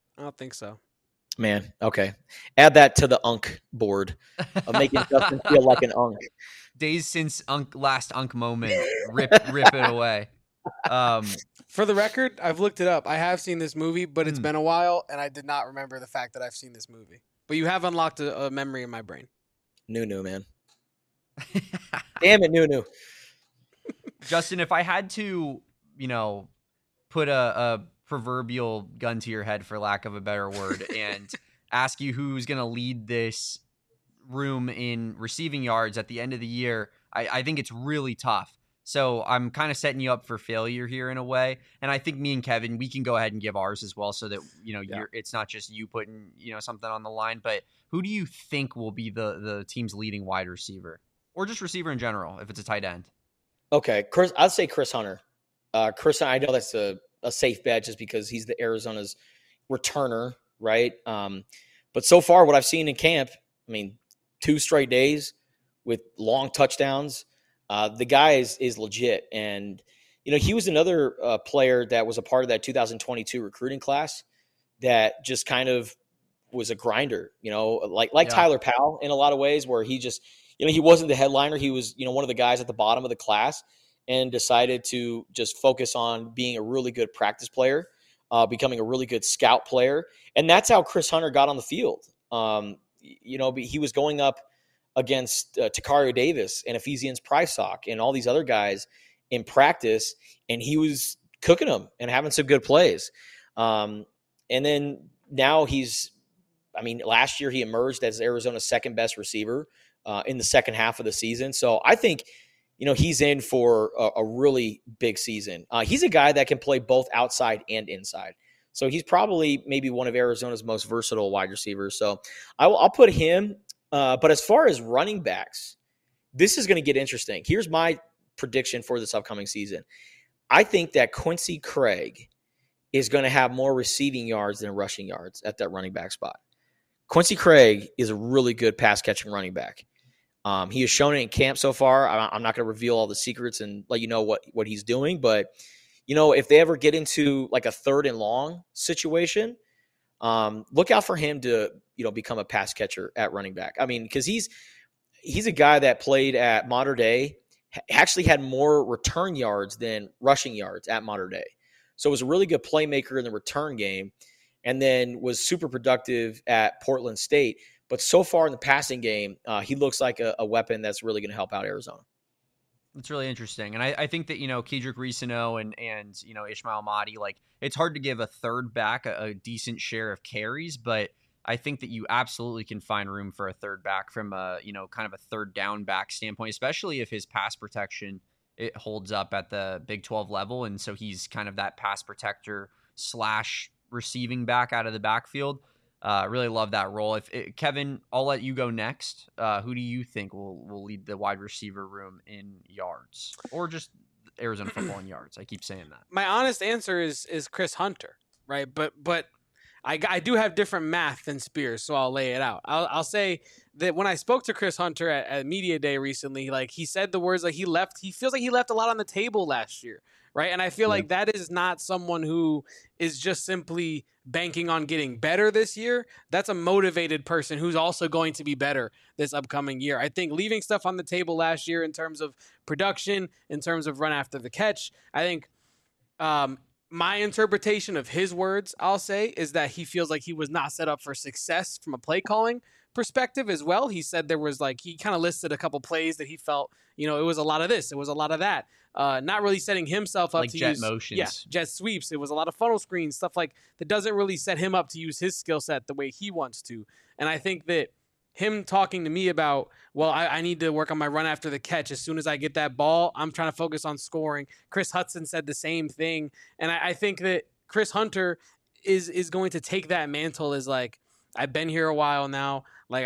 Man, okay. Add that to the Unk board of making Justin feel like an Unk. Days since last Unk moment. Rip it away. For the record, I've looked it up. I have seen this movie, but it's been a while, and I did not remember the fact that I've seen this movie. But you have unlocked a memory in my brain. Nunu, man. Damn it, Nunu. Justin, if I had to, put a proverbial gun to your head, for lack of a better word, and ask you who's going to lead this room in receiving yards at the end of the year, I think it's really tough. So I'm kind of setting you up for failure here in a way. And I think me and Kevin, we can go ahead and give ours as well, so that, it's not just you putting, something on the line. But who do you think will be the team's leading wide receiver, or just receiver in general, if it's a tight end? Okay, I'd say Chris Hunter. I know that's a safe bet just because he's the Arizona's returner, right? But so far, what I've seen in camp, 2 straight days with long touchdowns. The guy is legit. And, he was another player that was a part of that 2022 recruiting class that just kind of was a grinder, like Yeah. Tyler Powell in a lot of ways, where he just, he wasn't the headliner. He was, one of the guys at the bottom of the class, and decided to just focus on being a really good practice player, becoming a really good scout player. And that's how Chris Hunter got on the field. He was going up against Takario Davis and Ephesians Prysock and all these other guys in practice, and he was cooking them and having some good plays. And then now last year he emerged as Arizona's second best receiver in the second half of the season. So I think, he's in for a really big season. He's a guy that can play both outside and inside. So he's probably maybe one of Arizona's most versatile wide receivers. So I'll put him. But as far as running backs, this is going to get interesting. Here's my prediction for this upcoming season. I think that Quincy Craig is going to have more receiving yards than rushing yards at that running back spot. Quincy Craig is a really good pass-catching running back. He has shown it in camp so far. I'm not going to reveal all the secrets and let you know what he's doing. But, if they ever get into like a 3rd and long situation, look out for him to, become a pass catcher at running back. Because he's a guy that played at Mater Dei, actually had more return yards than rushing yards at Mater Dei. So was a really good playmaker in the return game, and then was super productive at Portland State. But so far in the passing game, he looks like a weapon that's really going to help out Arizona. It's really interesting. And I think that, Kedrick Reesano and Ishmael Mahdi, it's hard to give a third back a decent share of carries, but I think that you absolutely can find room for a third back from a, kind of a third down back standpoint, especially if his pass protection, it holds up at the Big 12 level. And so he's kind of that pass protector / receiving back out of the backfield. Really love that role. Kevin, I'll let you go next. Who do you think will lead the wide receiver room in yards, or just Arizona football in yards? I keep saying that. My honest answer is Chris Hunter, right? But I do have different math than Spears, so I'll lay it out. I'll say that when I spoke to Chris Hunter at Media Day recently, he said the words he feels like he left a lot on the table last year, right? And I feel like that is not someone who is just simply banking on getting better this year. That's a motivated person who's also going to be better this upcoming year. I think leaving stuff on the table last year in terms of production, in terms of run after the catch, I think my interpretation of his words, I'll say, is that he feels like he was not set up for success from a play calling perspective as well. He said there was he kind of listed a couple plays that he felt, it was a lot of this, it was a lot of that. Not really setting himself up to jet use motions. Yeah, jet sweeps. It was a lot of funnel screens, stuff that doesn't really set him up to use his skill set the way he wants to. And I think that him talking to me about, I need to work on my run after the catch. As soon as I get that ball, I'm trying to focus on scoring. Chris Hudson said the same thing. And I think that Chris Hunter is going to take that mantle as I've been here a while now.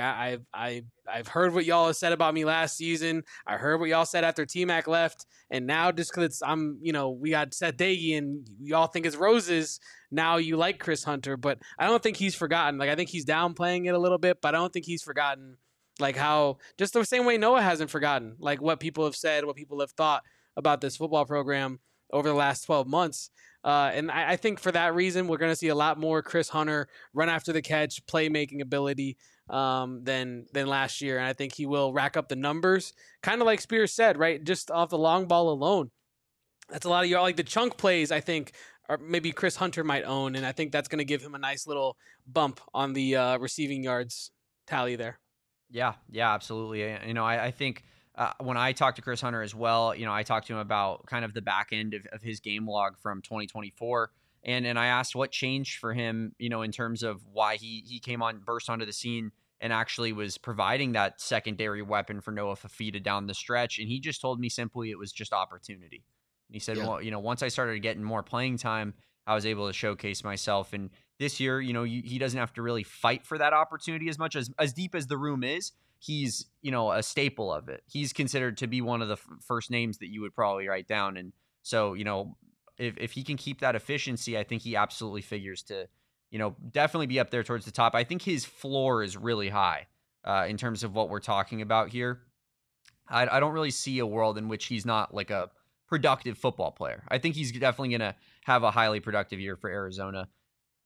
I've heard what y'all have said about me last season. I heard what y'all said after T-Mac left. And now just because we got Seth Dagey and y'all think it's roses, now you like Chris Hunter. But I don't think he's forgotten. I think he's downplaying it a little bit, but I don't think he's forgotten how, just the same way Noah hasn't forgotten, what people have said, what people have thought about this football program over the last 12 months. And I think for that reason, we're going to see a lot more Chris Hunter run after the catch, playmaking ability than last year. And I think he will rack up the numbers, kind of like Spears said, right? Just off the long ball alone. That's a lot of the chunk plays, I think, or maybe Chris Hunter might own. And I think that's going to give him a nice little bump on the receiving yards tally there. Yeah, absolutely. I think when I talked to Chris Hunter as well, I talked to him about kind of the back end of his game log from 2024. And I asked what changed for him, in terms of why he burst onto the scene and actually was providing that secondary weapon for Noah Fafita down the stretch. And he just told me simply it was just opportunity. And he said, once I started getting more playing time, I was able to showcase myself. And this year, he doesn't have to really fight for that opportunity as much as deep as the room is. He's, a staple of it. He's considered to be one of the first names that you would probably write down. And so, if he can keep that efficiency, I think he absolutely figures to, definitely be up there towards the top. I think his floor is really high in terms of what we're talking about here. I don't really see a world in which he's not a productive football player. I think he's definitely going to have a highly productive year for Arizona.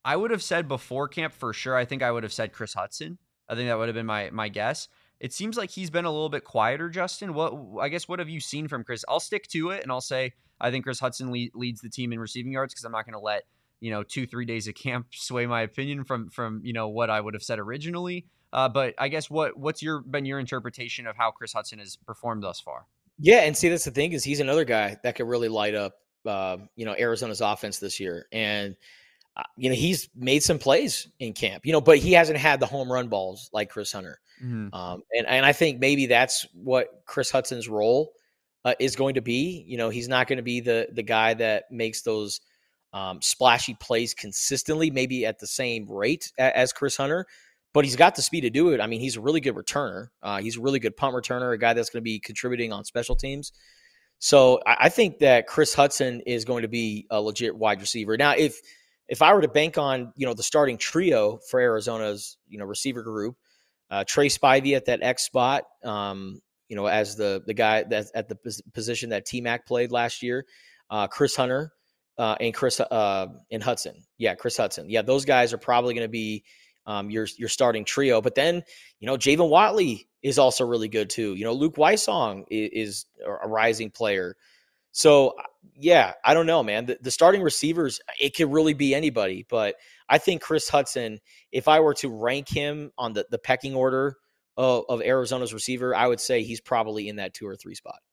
I would have said before camp for sure. I think I would have said Chris Hudson. I think that would have been my guess. It seems like he's been a little bit quieter, Justin. What have you seen from Chris? I'll stick to it and I'll say I think Chris Hudson leads the team in receiving yards because I'm not going to let 2-3 days of camp sway my opinion from what I would have said originally. But I guess what's been your interpretation of how Chris Hudson has performed thus far? Yeah, and see, that's the thing is he's another guy that could really light up Arizona's offense this year, and he's made some plays in camp, but he hasn't had the home run balls like Chris Hunter. Mm-hmm. And I think maybe that's what Chris Hudson's role is going to be. He's not going to be the guy that makes those splashy plays consistently, maybe at the same rate as Chris Hunter, but he's got the speed to do it. I mean, he's a really good returner. He's a really good punt returner, a guy that's going to be contributing on special teams. So I think that Chris Hudson is going to be a legit wide receiver. Now, if I were to bank on, the starting trio for Arizona's, receiver group, Trey Spivey at that X spot, as the guy that's at the position that T-Mac played last year, Chris Hunter and Hudson. Yeah, Chris Hudson. Yeah, those guys are probably going to be your starting trio. But then, Javon Watley is also really good too. Luke Weissong is a rising player. So, yeah, I don't know, man. The starting receivers, it could really be anybody. But I think Chris Hudson, if I were to rank him on the pecking order of Arizona's receiver, I would say he's probably in that 2 or 3 spot.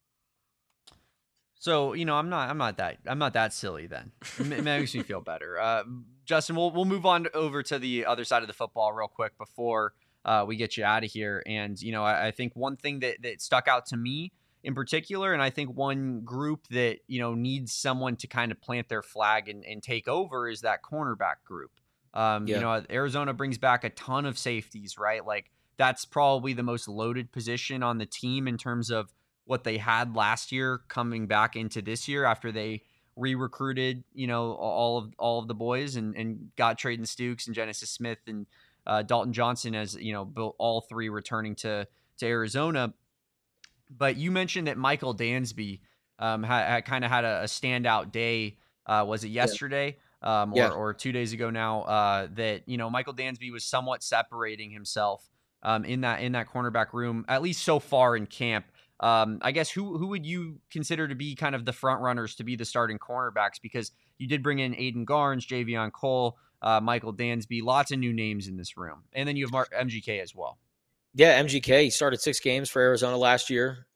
So, I'm not that silly then. It makes me feel better. Justin, we'll move on over to the other side of the football real quick before we get you out of here. And, I think one thing that stuck out to me in particular, and I think one group that, needs someone to kind of plant their flag and take over is that cornerback group. Arizona brings back a ton of safeties, right? Like that's probably the most loaded position on the team in terms of what they had last year coming back into this year after they re-recruited, all of the boys and got Trayden Stukes and Genesis Smith and Dalton Johnson as, all three returning to Arizona. But you mentioned that Michael Dansby had kind of had a standout day. Was it yesterday or 2 days ago now that, Michael Dansby was somewhat separating himself in that cornerback room, at least so far in camp. I guess who would you consider to be kind of the front runners to be the starting cornerbacks? Because you did bring in Aiden Garnes, Javion Cole, Michael Dansby, lots of new names in this room. And then you have MGK as well. Yeah, MGK, he started 6 games for Arizona last year,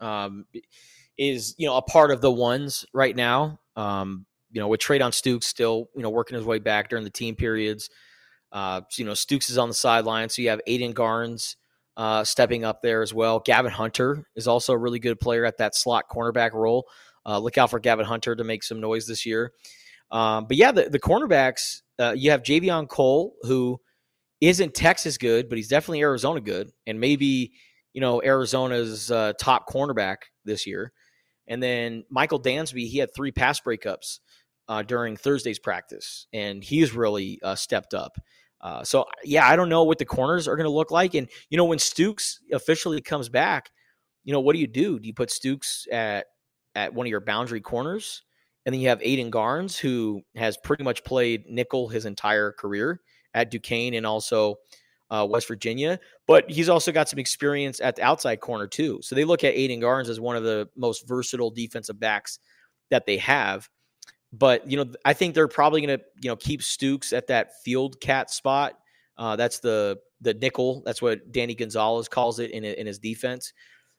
is, a part of the ones right now, with Trayden Stukes still, working his way back during the team periods. Stukes is on the sideline. So you have Aiden Garnes stepping up there as well. Gavin Hunter is also a really good player at that slot cornerback role. Look out for Gavin Hunter to make some noise this year. But yeah, the cornerbacks, you have Javion Cole, who isn't Texas good, but he's definitely Arizona good, and maybe, Arizona's top cornerback this year. And then Michael Dansby, he had 3 pass breakups during Thursday's practice, and he's really stepped up. So, yeah, I don't know what the corners are going to look like. And, when Stukes officially comes back, what do? Do you put Stukes at one of your boundary corners? And then you have Aiden Garnes, who has pretty much played nickel his entire career at Duquesne and also West Virginia. But he's also got some experience at the outside corner too. So they look at Aiden Garnes as one of the most versatile defensive backs that they have. But, I think they're probably going to, keep Stukes at that field cat spot. That's the nickel. That's what Danny Gonzalez calls it in his defense.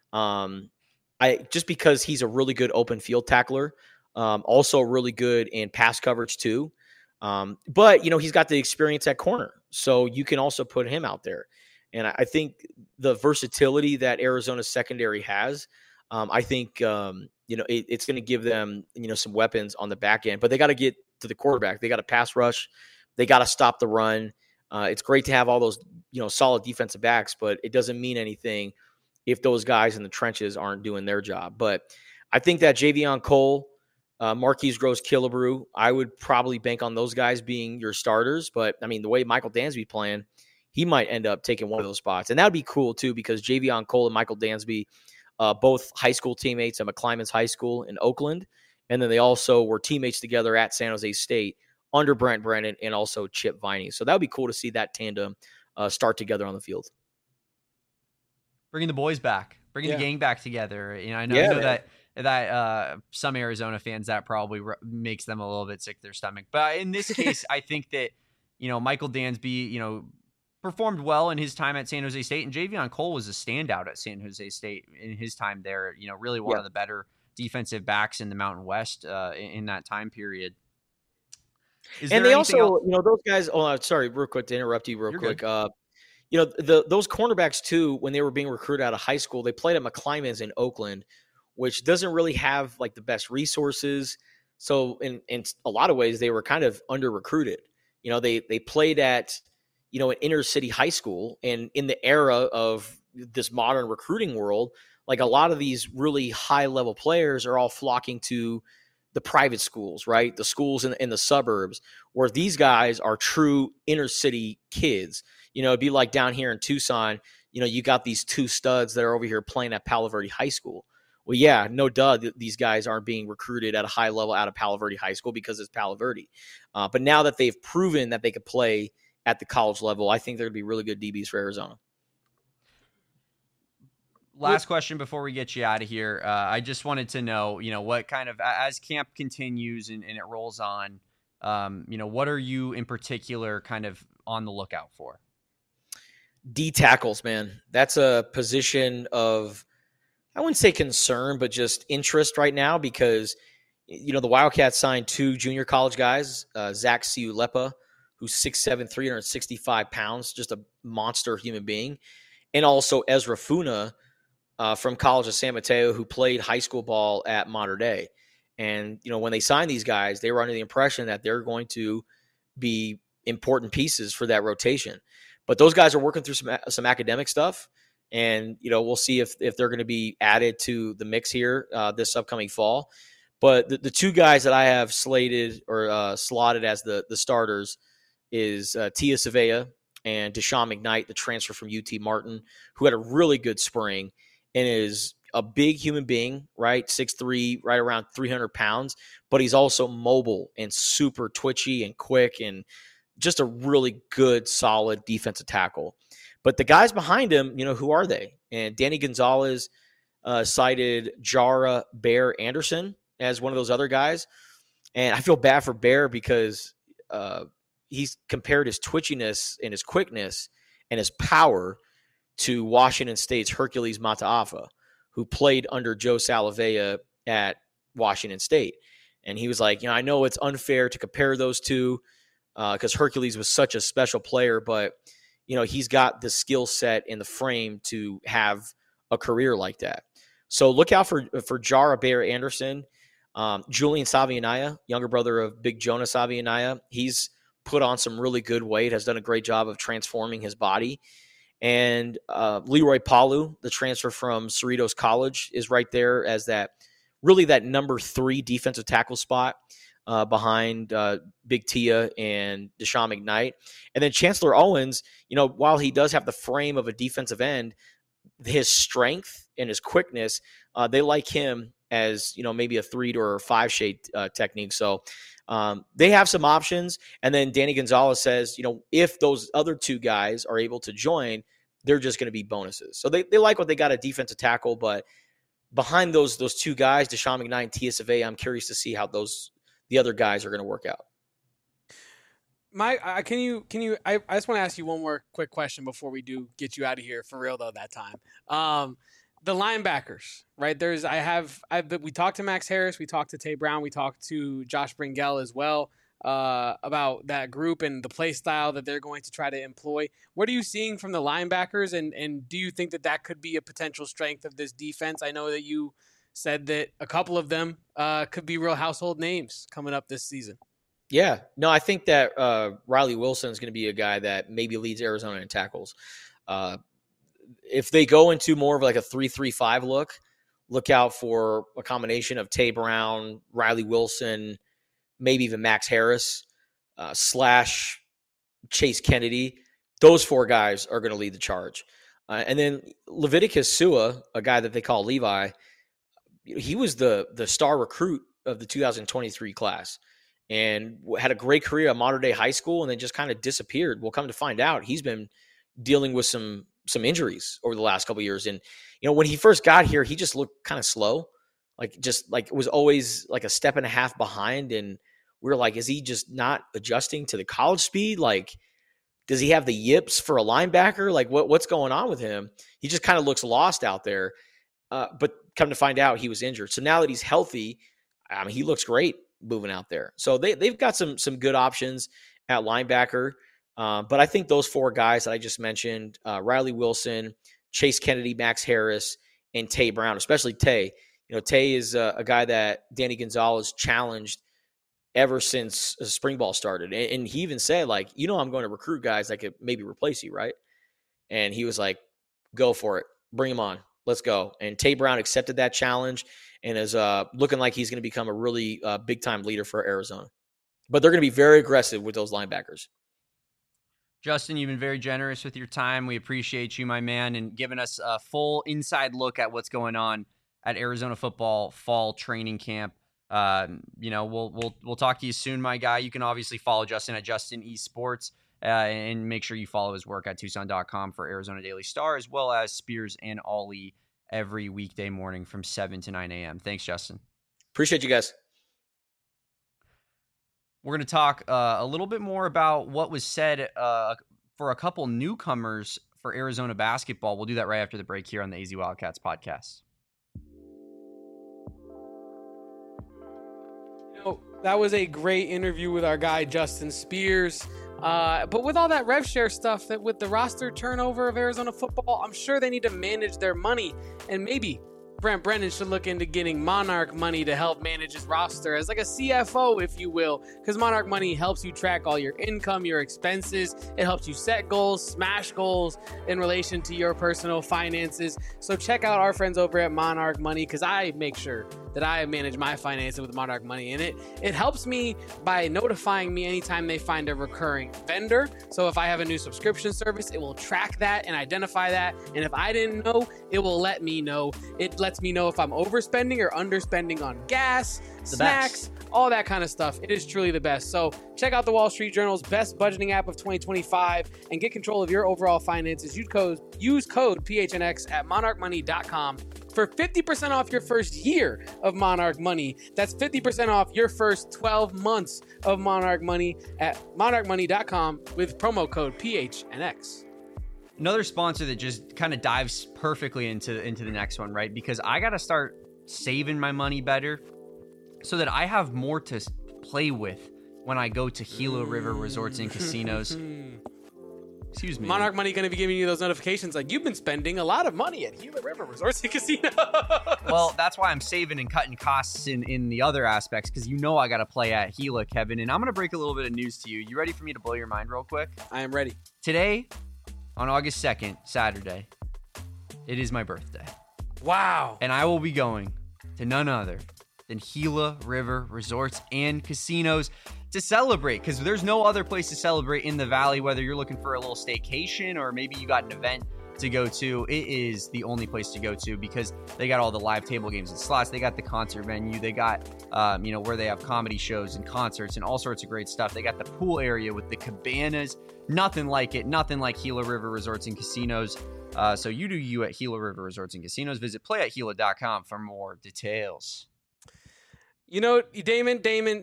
Just because he's a really good open field tackler, also really good in pass coverage too. But, he's got the experience at corner, so you can also put him out there. And I think the versatility that Arizona's secondary has, I think, it's going to give them, some weapons on the back end. But they got to get to the quarterback. They got to pass rush. They got to stop the run. It's great to have all those, solid defensive backs, but it doesn't mean anything if those guys in the trenches aren't doing their job. But I think that Javion Cole, Marquise Gross-Killebrew, I would probably bank on those guys being your starters. But, I mean, the way Michael Dansby playing, he might end up taking one of those spots. And that would be cool, too, because Javion Cole and Michael Dansby, both high school teammates at McClymonds High School in Oakland. And then they also were teammates together at San Jose State under Brent Brennan and also Chip Viney. So that would be cool to see that tandem start together on the field. Bringing the boys back, bringing the gang back together. I know that some Arizona fans, that probably makes them a little bit sick to their stomach. But in this case, I think that, Michael Dansby, performed well in his time at San Jose State, and Javion Cole was a standout at San Jose State in his time there. Really one of the better defensive backs in the Mountain West in that time period. And they also, those guys. Oh, sorry, real quick to interrupt you, real quick. Those cornerbacks too, when they were being recruited out of high school, they played at McClymonds in Oakland, which doesn't really have like the best resources. So in a lot of ways, they were kind of under recruited. They played at an inner city high school, and in the era of this modern recruiting world, like a lot of these really high level players are all flocking to the private schools, right? The schools in the suburbs, where these guys are true inner city kids. It'd be like down here in Tucson, you got these two studs that are over here playing at Palo Verde High School. Well, yeah, no duh, these guys aren't being recruited at a high level out of Palo Verde High School because it's Palo Verde. But now that they've proven that they could play at the college level, I think they're going to be really good DBs for Arizona. Last question before we get you out of here. I just wanted to know, what kind of, as camp continues and it rolls on, what are you in particular kind of on the lookout for? D tackles, man. That's a position of, I wouldn't say concern, but just interest right now because, the Wildcats signed 2 junior college guys, Zach Siulepa, who's 6'7", 365 pounds, just a monster human being, and also Ezra Funa from College of San Mateo, who played high school ball at Mater Dei. And, when they signed these guys, they were under the impression that they're going to be important pieces for that rotation. But those guys are working through some academic stuff, and, we'll see if they're going to be added to the mix here this upcoming fall. But the 2 guys that I have slated or slotted as the starters is Tia Savea and Deshaun McKnight, the transfer from UT Martin, who had a really good spring and is a big human being, right? 6'3", right around 300 pounds, but he's also mobile and super twitchy and quick and just a really good, solid defensive tackle. But the guys behind him, who are they? And Danny Gonzalez cited Jara Bear Anderson as one of those other guys. And I feel bad for Bear because he's compared his twitchiness and his quickness and his power to Washington State's Hercules Mataafa, who played under Joe Salavea at Washington State. And he was like, I know it's unfair to compare those two because Hercules was such a special player, but, he's got the skill set and the frame to have a career like that. So look out for Jara Bear Anderson. Julian Savianaya, younger brother of Big Jonah Savianaya, he's put on some really good weight, has done a great job of transforming his body. And Leroy Palu, the transfer from Cerritos College, is right there as that number 3 defensive tackle spot behind Big Tia and Deshaun McKnight. And then Chancellor Owens, while he does have the frame of a defensive end, his strength and his quickness, they like him as, maybe a 3 or 5 shade technique. So they have some options. And then Danny Gonzalez says, if those other 2 guys are able to join, they're just going to be bonuses. So they like what they got at defensive tackle, but behind those 2 guys, Deshaun McKnight and Tia Savea, I'm curious to see how the other guys are going to work out. Mike, can you? I just want to ask you one more quick question before we do get you out of here for real though. That time, the linebackers, right? We talked to Max Harris, we talked to Tay Brown, we talked to Josh Bringell as well about that group and the play style that they're going to try to employ. What are you seeing from the linebackers, and do you think that could be a potential strength of this defense? I know that you said that a couple of them could be real household names coming up this season. Yeah. No, I think that Riley Wilson is going to be a guy that maybe leads Arizona in tackles. If they go into more of like a 3-3-5 look out for a combination of Tay Brown, Riley Wilson, maybe even Max Harris / Chase Kennedy. Those 4 guys are going to lead the charge. And then Leviticus Sua, a guy that they call Levi, he was the star recruit of the 2023 class. and had a great career at Mater Dei High School and then just kind of disappeared. Well, come to find out, he's been dealing with some injuries over the last couple of years. And, when he first got here, he just looked kind of slow, like was always like a step and a half behind. And we were like, is he just not adjusting to the college speed? Like, does he have the yips for a linebacker? Like, what's going on with him? He just kind of looks lost out there. But come to find out, he was injured. So now that he's healthy, I mean, he looks great moving out there. So they've got some good options at linebacker. But I think those 4 guys that I just mentioned, Riley Wilson, Chase Kennedy, Max Harris, and Tay Brown, especially Tay. Tay is a guy that Danny Gonzalez challenged ever since spring ball started. And he even said, like, I'm going to recruit guys that could maybe replace you, right? And he was like, go for it. Bring him on. Let's go. And Tay Brown accepted that challenge and is looking like he's going to become a really big-time leader for Arizona. But they're going to be very aggressive with those linebackers. Justin, you've been very generous with your time. We appreciate you, my man, and giving us a full inside look at what's going on at Arizona football fall training camp. We'll talk to you soon, my guy. You can obviously follow Justin at Justin Esports and make sure you follow his work at Tucson.com for Arizona Daily Star, as well as Spears and Ollie every weekday morning from 7 to 9 a.m. Thanks, Justin. Appreciate you guys. We're going to talk a little bit more about what was said for a couple newcomers for Arizona basketball. We'll do that right after the break here on the AZ Wildcats podcast. That was a great interview with our guy, Justin Spears. But with all that rev share stuff, that with the roster turnover of Arizona football, I'm sure they need to manage their money. And maybe Brent Brennan should look into getting Monarch Money to help manage his roster as like a CFO, if you will, because Monarch Money helps you track all your income, your expenses. It helps you set goals, smash goals in relation to your personal finances. So check out our friends over at Monarch Money, because I make sure that I manage my finances with Monarch Money. And it helps me by notifying me anytime they find a recurring vendor. So if I have a new subscription service, it will track that and identify that. And if I didn't know, it will let me know. It lets me know if I'm overspending or underspending on gas, snacks, all that kind of stuff. It is truly the best. So check out the Wall Street Journal's best budgeting app of 2025 and get control of your overall finances. Use code PHNX at monarchmoney.com for 50% off your first year of Monarch Money. That's 50% off your first 12 months of Monarch Money at monarchmoney.com with promo code PHNX. Another sponsor that just kind of dives perfectly into the next one, right? Because I got to start saving my money better so that I have more to play with when I go to Gila River Resorts and Casinos. Excuse me. Monarch Money going to be giving you those notifications like you've been spending a lot of money at Gila River Resorts and Casinos. Well, that's why I'm saving and cutting costs in the other aspects, because I got to play at Gila, Kevin. And I'm going to break a little bit of news to you. You ready for me to blow your mind real quick? I am ready. Today, on August 2nd, Saturday, it is my birthday. Wow. And I will be going to none other than Gila River Resorts and Casinos to celebrate, because there's no other place to celebrate in the Valley, whether you're looking for a little staycation or maybe you got an event to go to. It is the only place to go to because they got all the live table games and slots. They got the concert venue. They got, where they have comedy shows and concerts and all sorts of great stuff. They got the pool area with the cabanas. Nothing like it. Nothing like Gila River Resorts and Casinos. So you do you at Gila River Resorts and Casinos. Visit playatgila.com for more details. You know, Damon.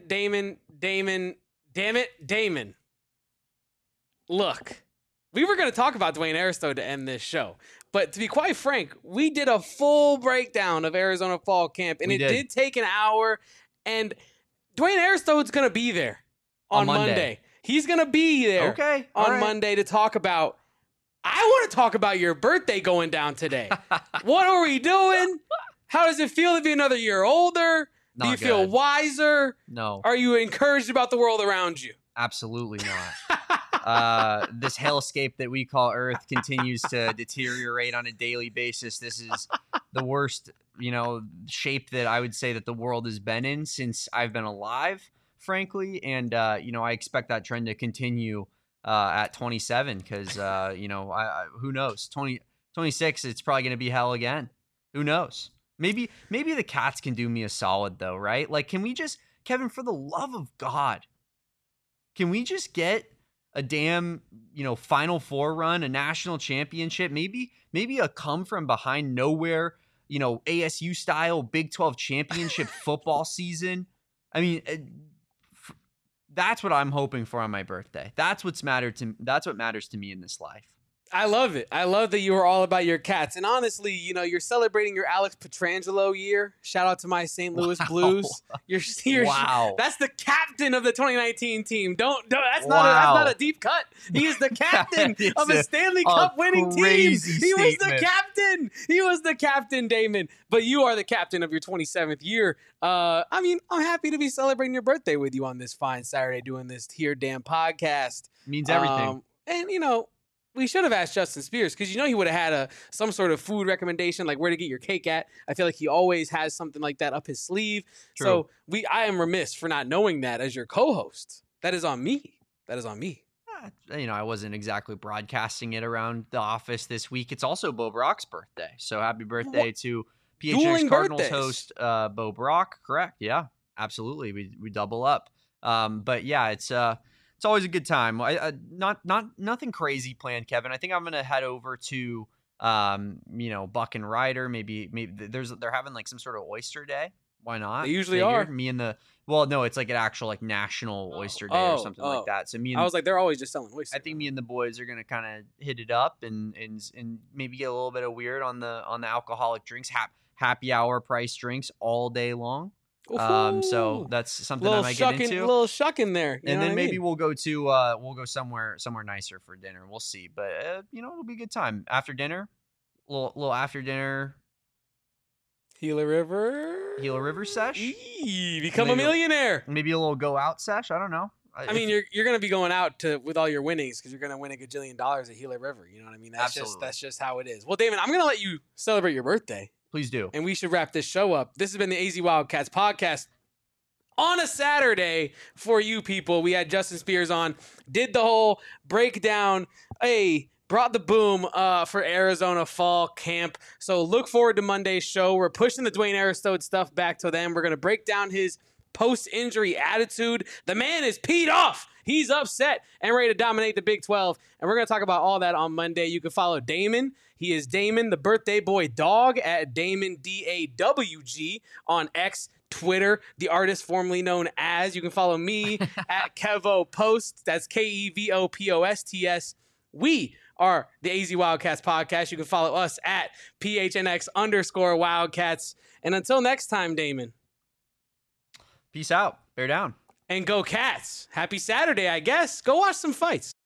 Look, we were going to talk about Dwayne Aristo to end this show. But to be quite frank, we did a full breakdown of Arizona Fall Camp, and it did take an hour. And Dwayne Aristo is going to be there on Monday. He's going to be there on Monday to talk about. I want to talk about your birthday going down today. What are we doing? How does it feel to be another year older? Do you feel wiser? No. Are you encouraged about the world around you? Absolutely not. This hellscape that we call Earth continues to deteriorate on a daily basis. This is the worst, shape that I would say that the world has been in since I've been alive, frankly. And, I expect that trend to continue at 27 because, who knows? 26, it's probably going to be hell again. Who knows? Maybe the Cats can do me a solid though, right? Like, can we just Kevin, for the love of God, can we just get a damn, Final Four run, a national championship, maybe a come from behind nowhere, ASU style Big 12 championship football season? I mean, that's what I'm hoping for on my birthday. That's what matters to me in this life. I love it. I love that you are all about your cats. And honestly, you're celebrating your Alex Petrangelo year. Shout out to my St. Louis Blues. Wow. That's the captain of the 2019 team. That's not a deep cut. He is the captain of a Stanley Cup winning team. He was the captain. He was the captain, Damon. But you are the captain of your 27th year. I'm happy to be celebrating your birthday with you on this fine Saturday doing this here damn podcast. Means everything. We should have asked Justin Spears because he would have had some sort of food recommendation, like where to get your cake at. I feel like he always has something like that up his sleeve. True. So I am remiss for not knowing that as your co-host. That is on me. I wasn't exactly broadcasting it around the office this week. It's also Bo Brock's birthday. So happy birthday to PHNX Cardinals host Bo Brock. Correct. Yeah, absolutely. We double up. But yeah, it's always a good time. Nothing crazy planned, Kevin. I think I'm gonna head over to Buck and Ryder. Maybe they're having like some sort of oyster day. Why not? They usually are. It's like an actual like national oyster day or something like that. So I was like, they're always just selling oysters. I think me and the boys are gonna kind of hit it up and maybe get a little bit of weird on the alcoholic drinks. Happy hour price drinks all day long. So that's something I might get into. A little shuck in there. And then maybe we'll go somewhere nicer for dinner. We'll see. But it'll be a good time. After dinner, little after dinner Gila River sesh. Become a millionaire. Maybe a little go out sesh. I don't know. You're going to be going out with all your winnings because you're going to win $1 gajillion at Gila River. You know what I mean? That's just how it is. Well, Damon, I'm going to let you celebrate your birthday. Please do. And we should wrap this show up. This has been the AZ Wildcats podcast on a Saturday for you people. We had Justin Spears on, did the whole breakdown, brought the boom for Arizona fall camp. So look forward to Monday's show. We're pushing the Dwayne Aristode stuff back to them. We're going to break down his post-injury attitude. The man is peed off. He's upset and ready to dominate the Big 12. And we're going to talk about all that on Monday. You can follow Damon. He is Damon, the birthday boy dog, at Damon, DAWG, on X, Twitter, the artist formerly known as. You can follow me at Kevo Post. That's KEVOPOSTS. We are the AZ Wildcats podcast. You can follow us at PHNX_Wildcats. And until next time, Damon. Peace out. Bear down. And go Cats. Happy Saturday, I guess. Go watch some fights.